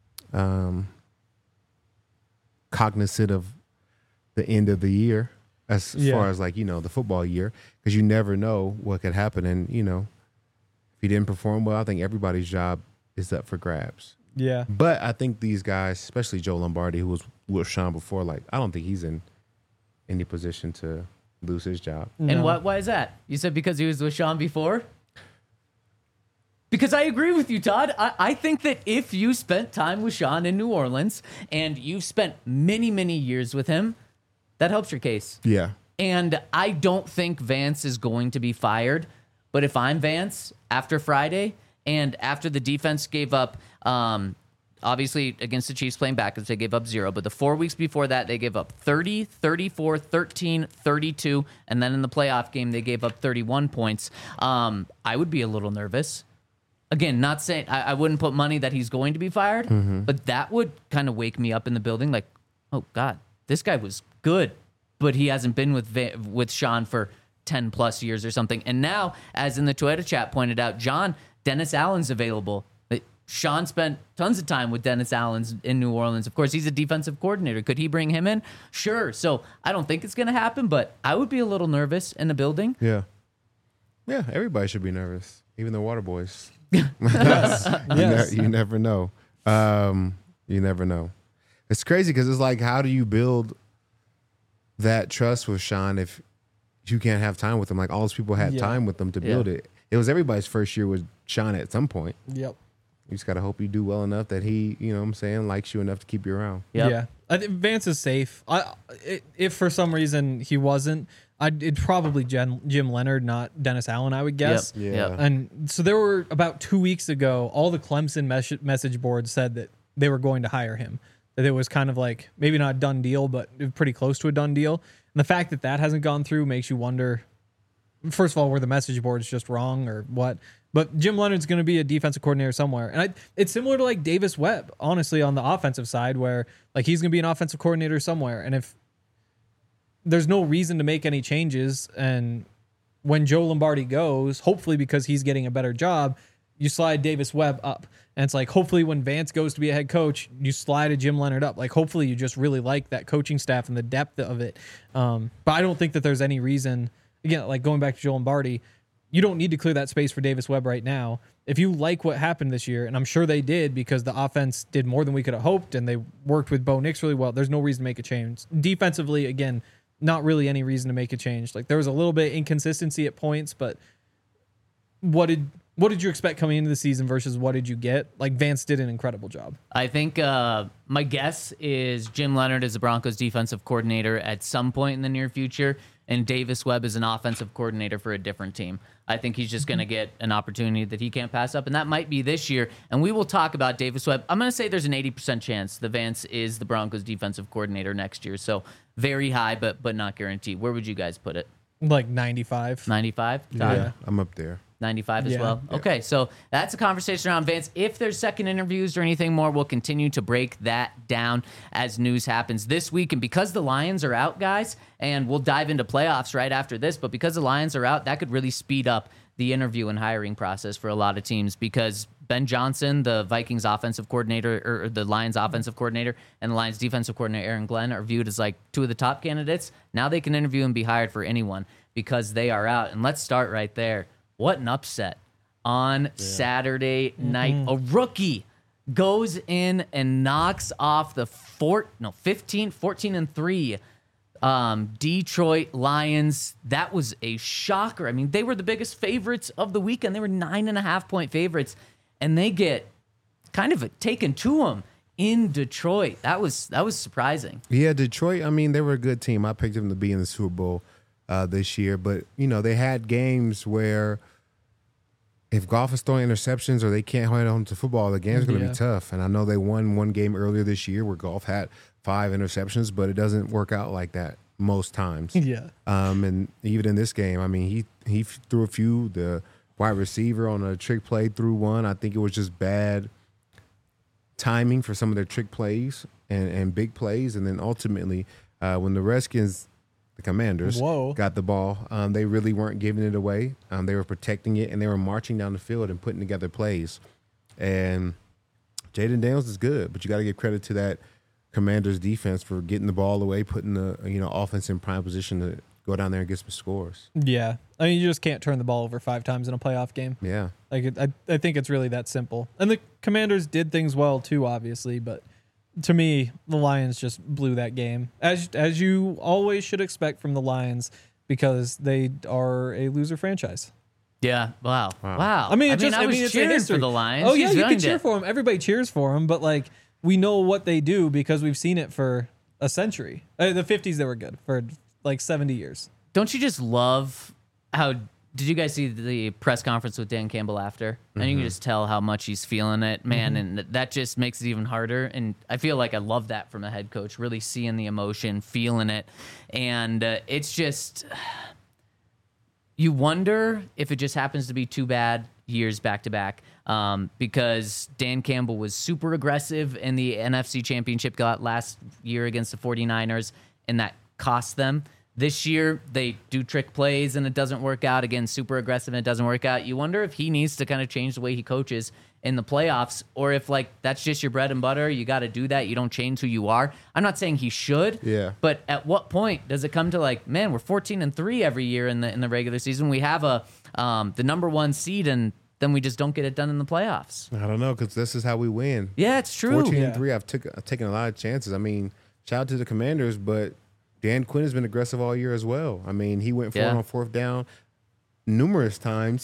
cognizant of the end of the year as far as like, the football year, because you never know what could happen. And, if you didn't perform well, I think everybody's job is up for grabs. Yeah. But I think these guys, especially Joe Lombardi, who was with Sean before, like, I don't think he's in any position to lose his job. No. And why is that? You said because he was with Sean before? Because I agree with you, Todd. I think that if you spent time with Sean in New Orleans and you've spent many, many years with him, that helps your case. Yeah. And I don't think Vance is going to be fired. But if I'm Vance after Friday and after the defense gave up, obviously against the Chiefs playing back, they gave up 0. But the 4 weeks before that, they gave up 30, 34, 13, 32. And then in the playoff game, they gave up 31 points. I would be a little nervous. Again, not saying I wouldn't put money that he's going to be fired, but that would kind of wake me up in the building like, oh, God, this guy was good, but he hasn't been with Sean for 10 plus years or something. And now, as in the Twitter chat pointed out, John, Dennis Allen's available. Sean spent tons of time with Dennis Allen in New Orleans. Of course, he's a defensive coordinator. Could he bring him in? Sure. So I don't think it's going to happen, but I would be a little nervous in the building. Yeah. Yeah, everybody should be nervous, even the water boys. Yes. You never know. You never know. It's crazy because it's like, how do you build that trust with Sean if you can't have time with him? Like, all those people had time with them to build it. It was everybody's first year with Sean at some point. Yep. You just got to hope you do well enough that he, you know what I'm saying, likes you enough to keep you around. Yep. Yeah, I think Vance is safe. If for some reason he wasn't, it'd probably Jim Leonard, not Dennis Allen, I would guess. Yep. Yeah. Yep. And so there were about 2 weeks ago, all the Clemson message boards said that they were going to hire him. That it was kind of like maybe not a done deal, but pretty close to a done deal. And the fact that that hasn't gone through makes you wonder, first of all, were the message boards just wrong or what? But Jim Leonard's going to be a defensive coordinator somewhere. And it's similar to like Davis Webb, honestly, on the offensive side, where like he's going to be an offensive coordinator somewhere. And if there's no reason to make any changes, and when Joe Lombardi goes, hopefully because he's getting a better job, you slide Davis Webb up. And it's like, hopefully when Vance goes to be a head coach, you slide a Jim Leonard up. Like, hopefully you just really like that coaching staff and the depth of it. But I don't think that there's any reason, again, like going back to Joe Lombardi, you don't need to clear that space for Davis Webb right now. If you like what happened this year, and I'm sure they did because the offense did more than we could have hoped, and they worked with Bo Nix really well, there's no reason to make a change. Defensively, again, not really any reason to make a change. Like, there was a little bit of inconsistency at points, but what did you expect coming into the season versus what did you get? Like, Vance did an incredible job. I think my guess is Jim Leonard is the Broncos defensive coordinator at some point in the near future, and Davis Webb is an offensive coordinator for a different team. I think he's just going to get an opportunity that he can't pass up, and that might be this year. And we will talk about Davis Webb. I'm going to say there's an 80% chance that Vance is the Broncos defensive coordinator next year. So very high, but not guaranteed. Where would you guys put it? Like 95. 95? Yeah, I'm up there. 95 as Yeah. well. Okay, so that's a conversation around Vance. If there's second interviews or anything more, we'll continue to break that down as news happens this week. And because the Lions are out, guys, and we'll dive into playoffs right after this, but because the Lions are out, that could really speed up the interview and hiring process for a lot of teams because Ben Johnson, the Vikings offensive coordinator, or the Lions offensive coordinator, and the Lions defensive coordinator, Aaron Glenn, are viewed as like two of the top candidates. Now they can interview and be hired for anyone because they are out. And let's start right there. What an upset on Saturday night. A rookie goes in and knocks off the 14-3 Detroit Lions. That was a shocker. I mean, they were the biggest favorites of the weekend. They were 9.5-point favorites, and they get kind of taken to them in Detroit. That was surprising. Yeah, Detroit, I mean, they were a good team. I picked them to be in the Super Bowl this year, but, you know, they had games where if Goff is throwing interceptions or they can't hold on to football, the game's going to be tough. And I know they won one game earlier this year where Goff had 5 interceptions, but it doesn't work out like that most times. Yeah. And even in this game, I mean, he threw a few. The wide receiver on a trick play threw one. I think it was just bad timing for some of their trick plays and big plays. And then ultimately, when the Redskins, the Commanders, got the ball, they really weren't giving it away. They were protecting it, and they were marching down the field and putting together plays. And Jaden Daniels is good, but you got to give credit to that Commanders defense for getting the ball away, putting the offense in prime position to go down there and get some scores. Yeah. I mean, you just can't turn the ball over 5 times in a playoff game. Yeah. Like, I think it's really that simple. And the Commanders did things well, too, obviously, but to me, the Lions just blew that game, as you always should expect from the Lions, because they are a loser franchise. Yeah. Wow. I mean, I was cheering it's for the Lions. Oh, yeah, Just you can ruined cheer it. for them. Everybody cheers for them, but, like, we know what they do because we've seen it for a century. The 50s, they were good for, like, 70 years. Don't you just love how? Did you guys see the press conference with Dan Campbell after? And you can just tell how much he's feeling it, man. And that just makes it even harder. And I feel like I love that from a head coach, really seeing the emotion, feeling it. And it's just, you wonder if it just happens to be 2 bad years back to back. Because Dan Campbell was super aggressive in the NFC Championship last year against the 49ers, and that cost them. This year, they do trick plays and it doesn't work out. Again, super aggressive and it doesn't work out. You wonder if he needs to kind of change the way he coaches in the playoffs, or if, like, that's just your bread and butter. You got to do that. You don't change who you are. I'm not saying he should. Yeah. But at what point does it come to, like, man, we're 14-3 every year in the regular season. We have the number 1 seed, and then we just don't get it done in the playoffs. I don't know, because this is how we win. Yeah, it's true. 14-3, I've taken a lot of chances. I mean, shout out to the Commanders, but Dan Quinn has been aggressive all year as well. I mean, he went for it on 4th down numerous times.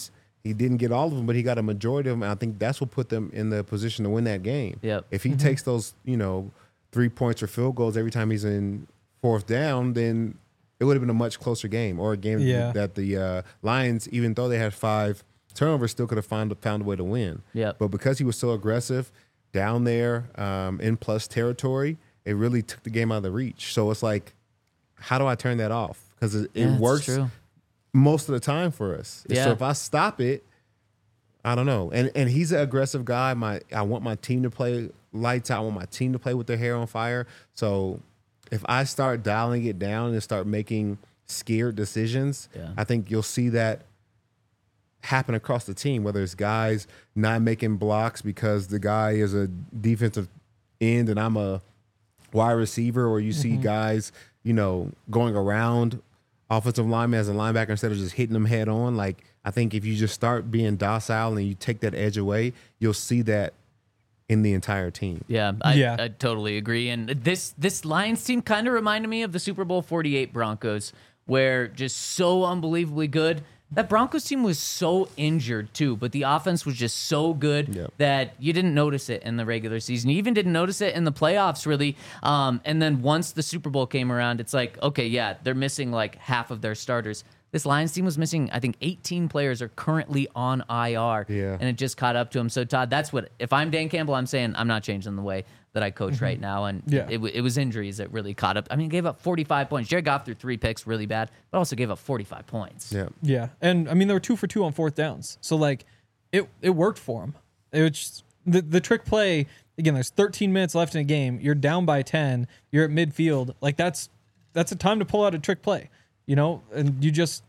He didn't get all of them, but he got a majority of them. And I think that's what put them in the position to win that game. Yep. If he takes those, 3 points or field goals every time he's in fourth down, then it would have been a much closer game, or a game that the Lions, even though they had 5 turnovers, still could have found a way to win. Yep. But because he was so aggressive down there in plus territory, it really took the game out of the reach. So it's like, how do I turn that off? Because it works true. most of the time for us. Yeah. So if I stop it, I don't know. And he's an aggressive guy. I want my team to play lights out. I want my team to play with their hair on fire. So if I start dialing it down and start making scared decisions, I think you'll see that happen across the team, whether it's guys not making blocks because the guy is a defensive end and I'm a wide receiver, or you see guys, going around offensive linemen as a linebacker instead of just hitting them head on. Like, I think if you just start being docile and you take that edge away, you'll see that in the entire team. Yeah, I totally agree. And this Lions team kind of reminded me of the Super Bowl 48 Broncos, where just so unbelievably good. That Broncos team was so injured too, but the offense was just so good that you didn't notice it in the regular season. You even didn't notice it in the playoffs, really. And then once the Super Bowl came around, it's like, okay, yeah, they're missing like half of their starters. This Lions team was missing, I think, 18 players are currently on IR, and it just caught up to them. So, Todd, that's what, if I'm Dan Campbell, I'm saying I'm not changing the way that I coach right now. And it was injuries that really caught up. I mean, gave up 45 points. Jared Goff threw 3 picks really bad, but also gave up 45 points. Yeah. And, I mean, they were 2 for 2 on fourth downs. So, like, it worked for them. It was just, the trick play, again, there's 13 minutes left in a game. You're down by 10. You're at midfield. Like, that's a time to pull out a trick play. And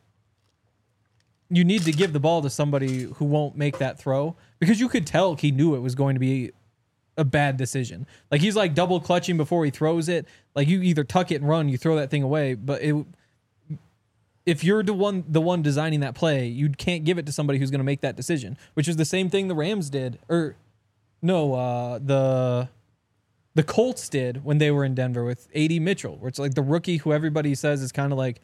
you need to give the ball to somebody who won't make that throw, because you could tell he knew it was going to be a bad decision. Like, he's like double clutching before he throws it. Like, you either tuck it and run, you throw that thing away. But if you're the one designing that play, you can't give it to somebody who's going to make that decision, which is the same thing the Rams did. Or no, the Colts did when they were in Denver with A.D. Mitchell, where it's like the rookie who everybody says is kind of like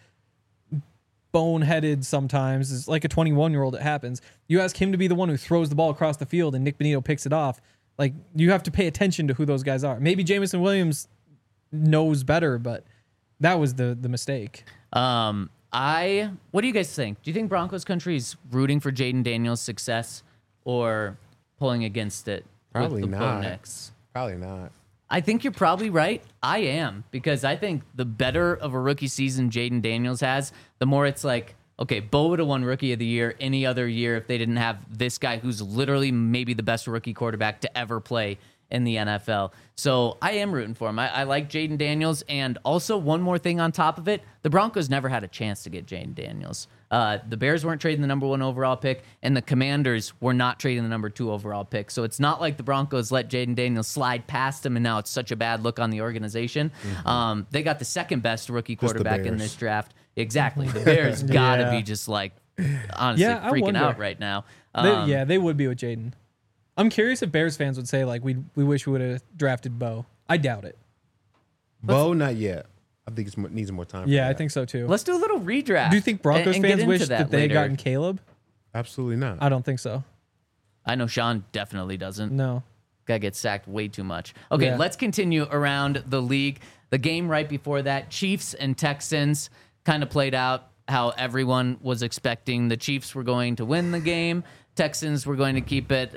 boneheaded sometimes, is like a 21-year-old. It happens. You ask him to be the one who throws the ball across the field and Nick Bonito picks it off. Like, you have to pay attention to who those guys are. Maybe Jameson Williams knows better, but that was the mistake. What do you guys think? Do you think Broncos country is rooting for Jaden Daniels' success or pulling against it? Probably with the not. Bonix? Probably not. I think you're probably right. I am, because I think the better of a rookie season Jaden Daniels has, the more it's like, okay, Bo would have won Rookie of the Year any other year if they didn't have this guy who's literally maybe the best rookie quarterback to ever play in the NFL. So I am rooting for him. I like Jaden Daniels. And also, one more thing on top of it, the Broncos never had a chance to get Jaden Daniels. The Bears weren't trading the number 1 overall pick, and the Commanders were not trading the number 2 overall pick. So it's not like the Broncos let Jaden Daniels slide past him, and now it's such a bad look on the organization. They got the second best rookie quarterback in this draft. Exactly. The Bears got to be just like, honestly, freaking out right now. They would be with Jaden. I'm curious if Bears fans would say, like, we wish we would have drafted Bo. I doubt it. Bo, not yet. I think it needs more time. Yeah, I think so too. Let's do a little redraft. Do you think Broncos and fans wish that they had gotten Caleb? Absolutely not. I don't think so. I know Sean definitely doesn't. No. Guy gets sacked way too much. Okay, let's continue around the league. The game right before that, Chiefs and Texans, kind of played out how everyone was expecting. The Chiefs were going to win the game. Texans were going to keep it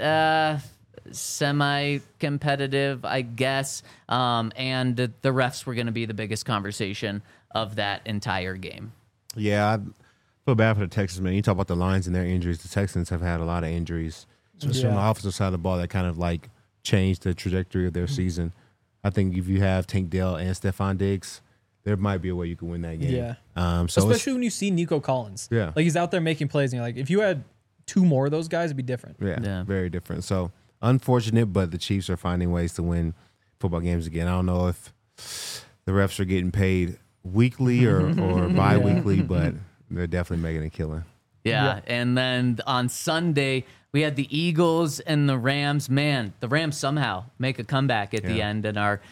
semi-competitive, I guess. And the refs were going to be the biggest conversation of that entire game. Yeah, I feel bad for the Texans, man. You talk about the Lions and their injuries. The Texans have had a lot of injuries, especially on the offensive side of the ball, that kind of like changed the trajectory of their season. I think if you have Tank Dell and Stephon Diggs, there might be a way you can win that game. Yeah. Especially when you see Nico Collins. Yeah. Like, he's out there making plays, and you're like, if you had 2 more of those guys, it'd be different. Yeah, very different. So, unfortunate, but the Chiefs are finding ways to win football games again. I don't know if the refs are getting paid weekly or bi-weekly, but they're definitely making a killing. Yeah. And then on Sunday, we had the Eagles and the Rams. Man, the Rams somehow make a comeback at the end and are,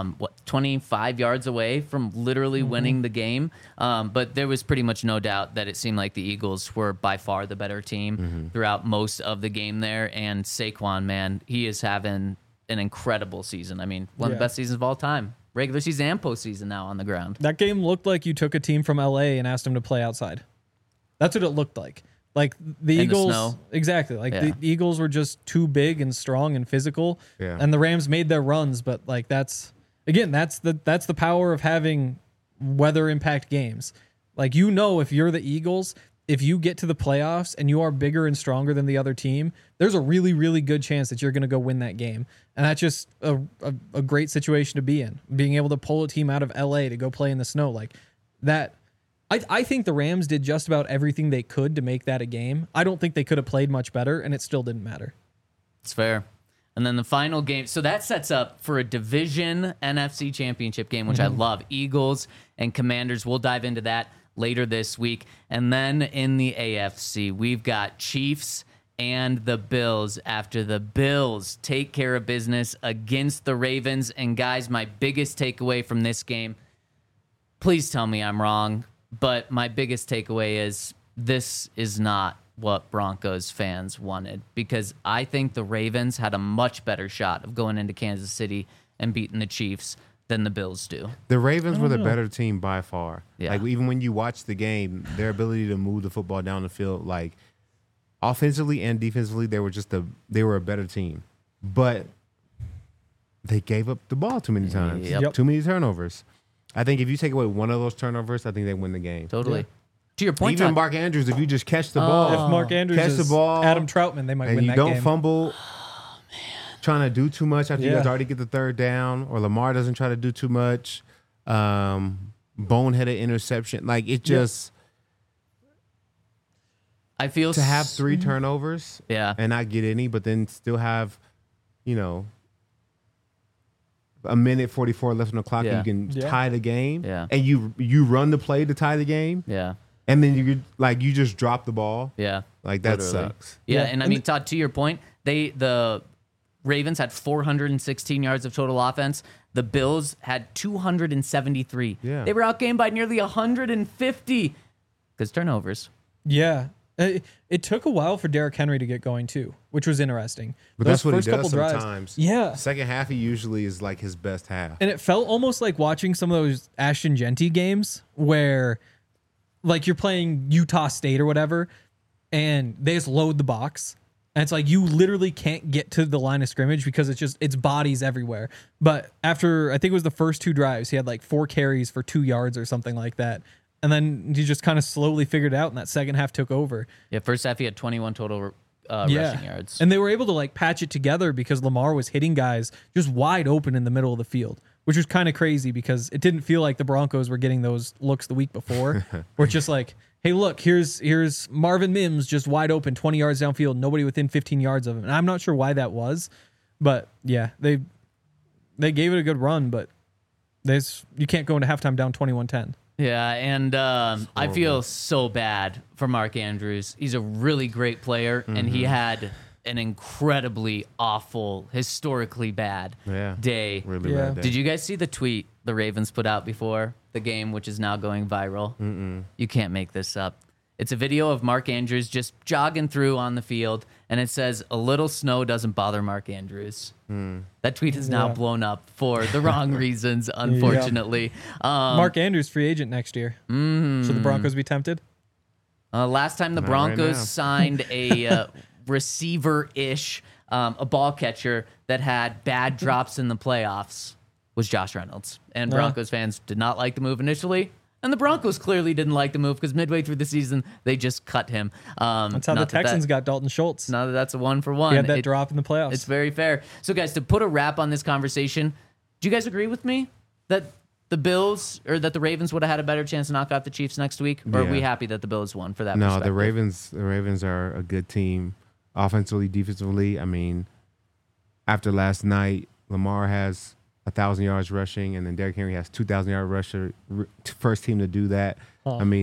25 yards away from literally winning the game. But there was pretty much no doubt that it seemed like the Eagles were by far the better team throughout most of the game there. And Saquon, man, he is having an incredible season. I mean, one of the best seasons of all time. Regular season and postseason now on the ground. That game looked like you took a team from LA and asked them to play outside. That's what it looked like. Like the Eagles, the snow. Exactly. Like the Eagles were just too big and strong and physical, and the Rams made their runs. But like that's the power of having weather impact games. Like if you're the Eagles, if you get to the playoffs and you are bigger and stronger than the other team, there's a really, really good chance that you're going to go win that game. And that's just a great situation to be in. Being able to pull a team out of LA to go play in the snow like that. I think the Rams did just about everything they could to make that a game. I don't think they could have played much better, and it still didn't matter. It's fair. And then the final game. So that sets up for a division NFC championship game, which I love. Eagles and Commanders. We'll dive into that later this week. And then in the AFC, we've got Chiefs and the Bills after the Bills take care of business against the Ravens. And guys, my biggest takeaway from this game, please tell me I'm wrong, but my biggest takeaway is this is not what Broncos fans wanted, because I think the Ravens had a much better shot of going into Kansas City and beating the Chiefs than the Bills do. The Ravens were the better team by far. Yeah. Like even when you watch the game, their ability to move the football down the field, like offensively and defensively, they were a better team. But they gave up the ball too many times. Yep. Too many turnovers. I think if you take away one of those turnovers, I think they win the game. Totally. To your point, Even Todd, Mark Andrews, if you just catch the ball, If Mark Andrews catch is the ball, Adam Troutman, they might and win you that don't game. fumble, trying to do too much after you guys already get the third down, or Lamar doesn't try to do too much, boneheaded interception. Like it just I feel to have 3 turnovers, and not get any, but then still have, a minute 44 left on the clock, and you can tie the game, and you run the play to tie the game, and then you just drop the ball, like that sucks. And I mean, Todd, to your point, the Ravens had 416 yards of total offense. The Bills had 273. They were outgained by nearly 150 because turnovers. Yeah. It took a while for Derrick Henry to get going too, which was interesting. But Those that's what he first couple does drives- sometimes. Yeah. Second half, he usually is like his best half. And it felt almost like watching some of those Ashton Genty games where like you're playing Utah State or whatever, and they just load the box. And it's like you literally can't get to the line of scrimmage because it's bodies everywhere. But after, I think it was the first 2 drives, he had like 4 carries for 2 yards or something like that. And then he just kind of slowly figured it out, and that second half took over. Yeah, first half he had 21 total rushing yards. And they were able to like patch it together because Lamar was hitting guys just wide open in the middle of the field, which was kind of crazy because it didn't feel like the Broncos were getting those looks the week before. Where it's just like, hey, look, here's Marvin Mims just wide open, 20 yards downfield, nobody within 15 yards of him. And I'm not sure why that was, but yeah, they gave it a good run, but you can't go into halftime down 21-10. Yeah, and I feel so bad for Mark Andrews. He's a really great player, and he had an incredibly awful, historically bad day. Really bad day. Did you guys see the tweet the Ravens put out before the game, which is now going viral? You can't make this up. It's a video of Mark Andrews just jogging through on the field, and it says, "A little snow doesn't bother Mark Andrews." That tweet is now blown up for the wrong reasons, unfortunately. Mark Andrews, free agent next year. Should the Broncos be tempted? Last time the Broncos signed a receiver-ish, a ball catcher that had bad drops in the playoffs was Josh Reynolds. And Broncos fans did not like the move initially. And the Broncos clearly didn't like the move because midway through the season, they just cut him. That's how the Texans got Dalton Schultz. Now that's a 1-for-1. He had that drop in the playoffs. It's very fair. So, guys, to put a wrap on this conversation, do you guys agree with me that the Bills or that the Ravens would have had a better chance to knock out the Chiefs next week? Or are we happy that the Bills won for that No, perspective? the Ravens are a good team offensively, defensively. I mean, after last night, Lamar has 1,000 yards rushing, and then Derrick Henry has 2,000 yard rusher. First team to do that. I mean,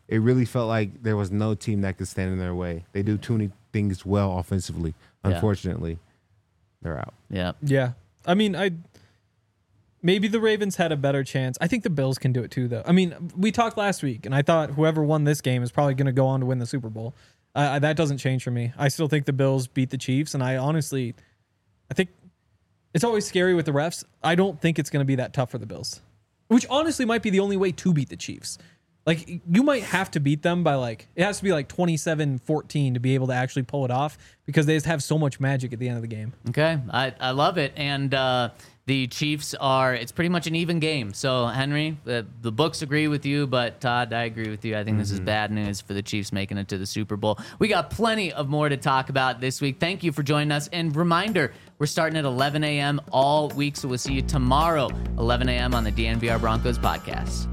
it really felt like there was no team that could stand in their way. They do too many things well offensively. Unfortunately, they're out. Yeah. Yeah. I mean, maybe the Ravens had a better chance. I think the Bills can do it too, though. I mean, we talked last week, and I thought whoever won this game is probably going to go on to win the Super Bowl. That doesn't change for me. I still think the Bills beat the Chiefs, and I think it's always scary with the refs. I don't think it's going to be that tough for the Bills, which honestly might be the only way to beat the Chiefs. Like, you might have to beat them by, like, it has to be like 27-14 to be able to actually pull it off, because they just have so much magic at the end of the game. Okay, I love it. And the Chiefs it's pretty much an even game. So, Henry, the books agree with you, but Todd, I agree with you. I think this is bad news for the Chiefs making it to the Super Bowl. We got plenty of more to talk about this week. Thank you for joining us. And reminder, we're starting at 11 a.m. all week, so we'll see you tomorrow, 11 a.m. on the DNVR Broncos podcast.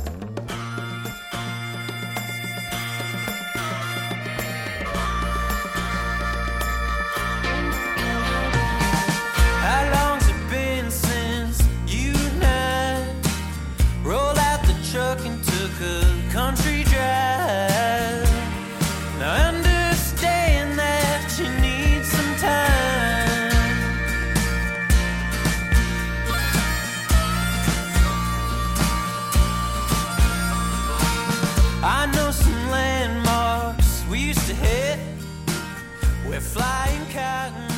And took a country drive. Now understand that you need some time. I know some landmarks we used to hit. We're flying cotton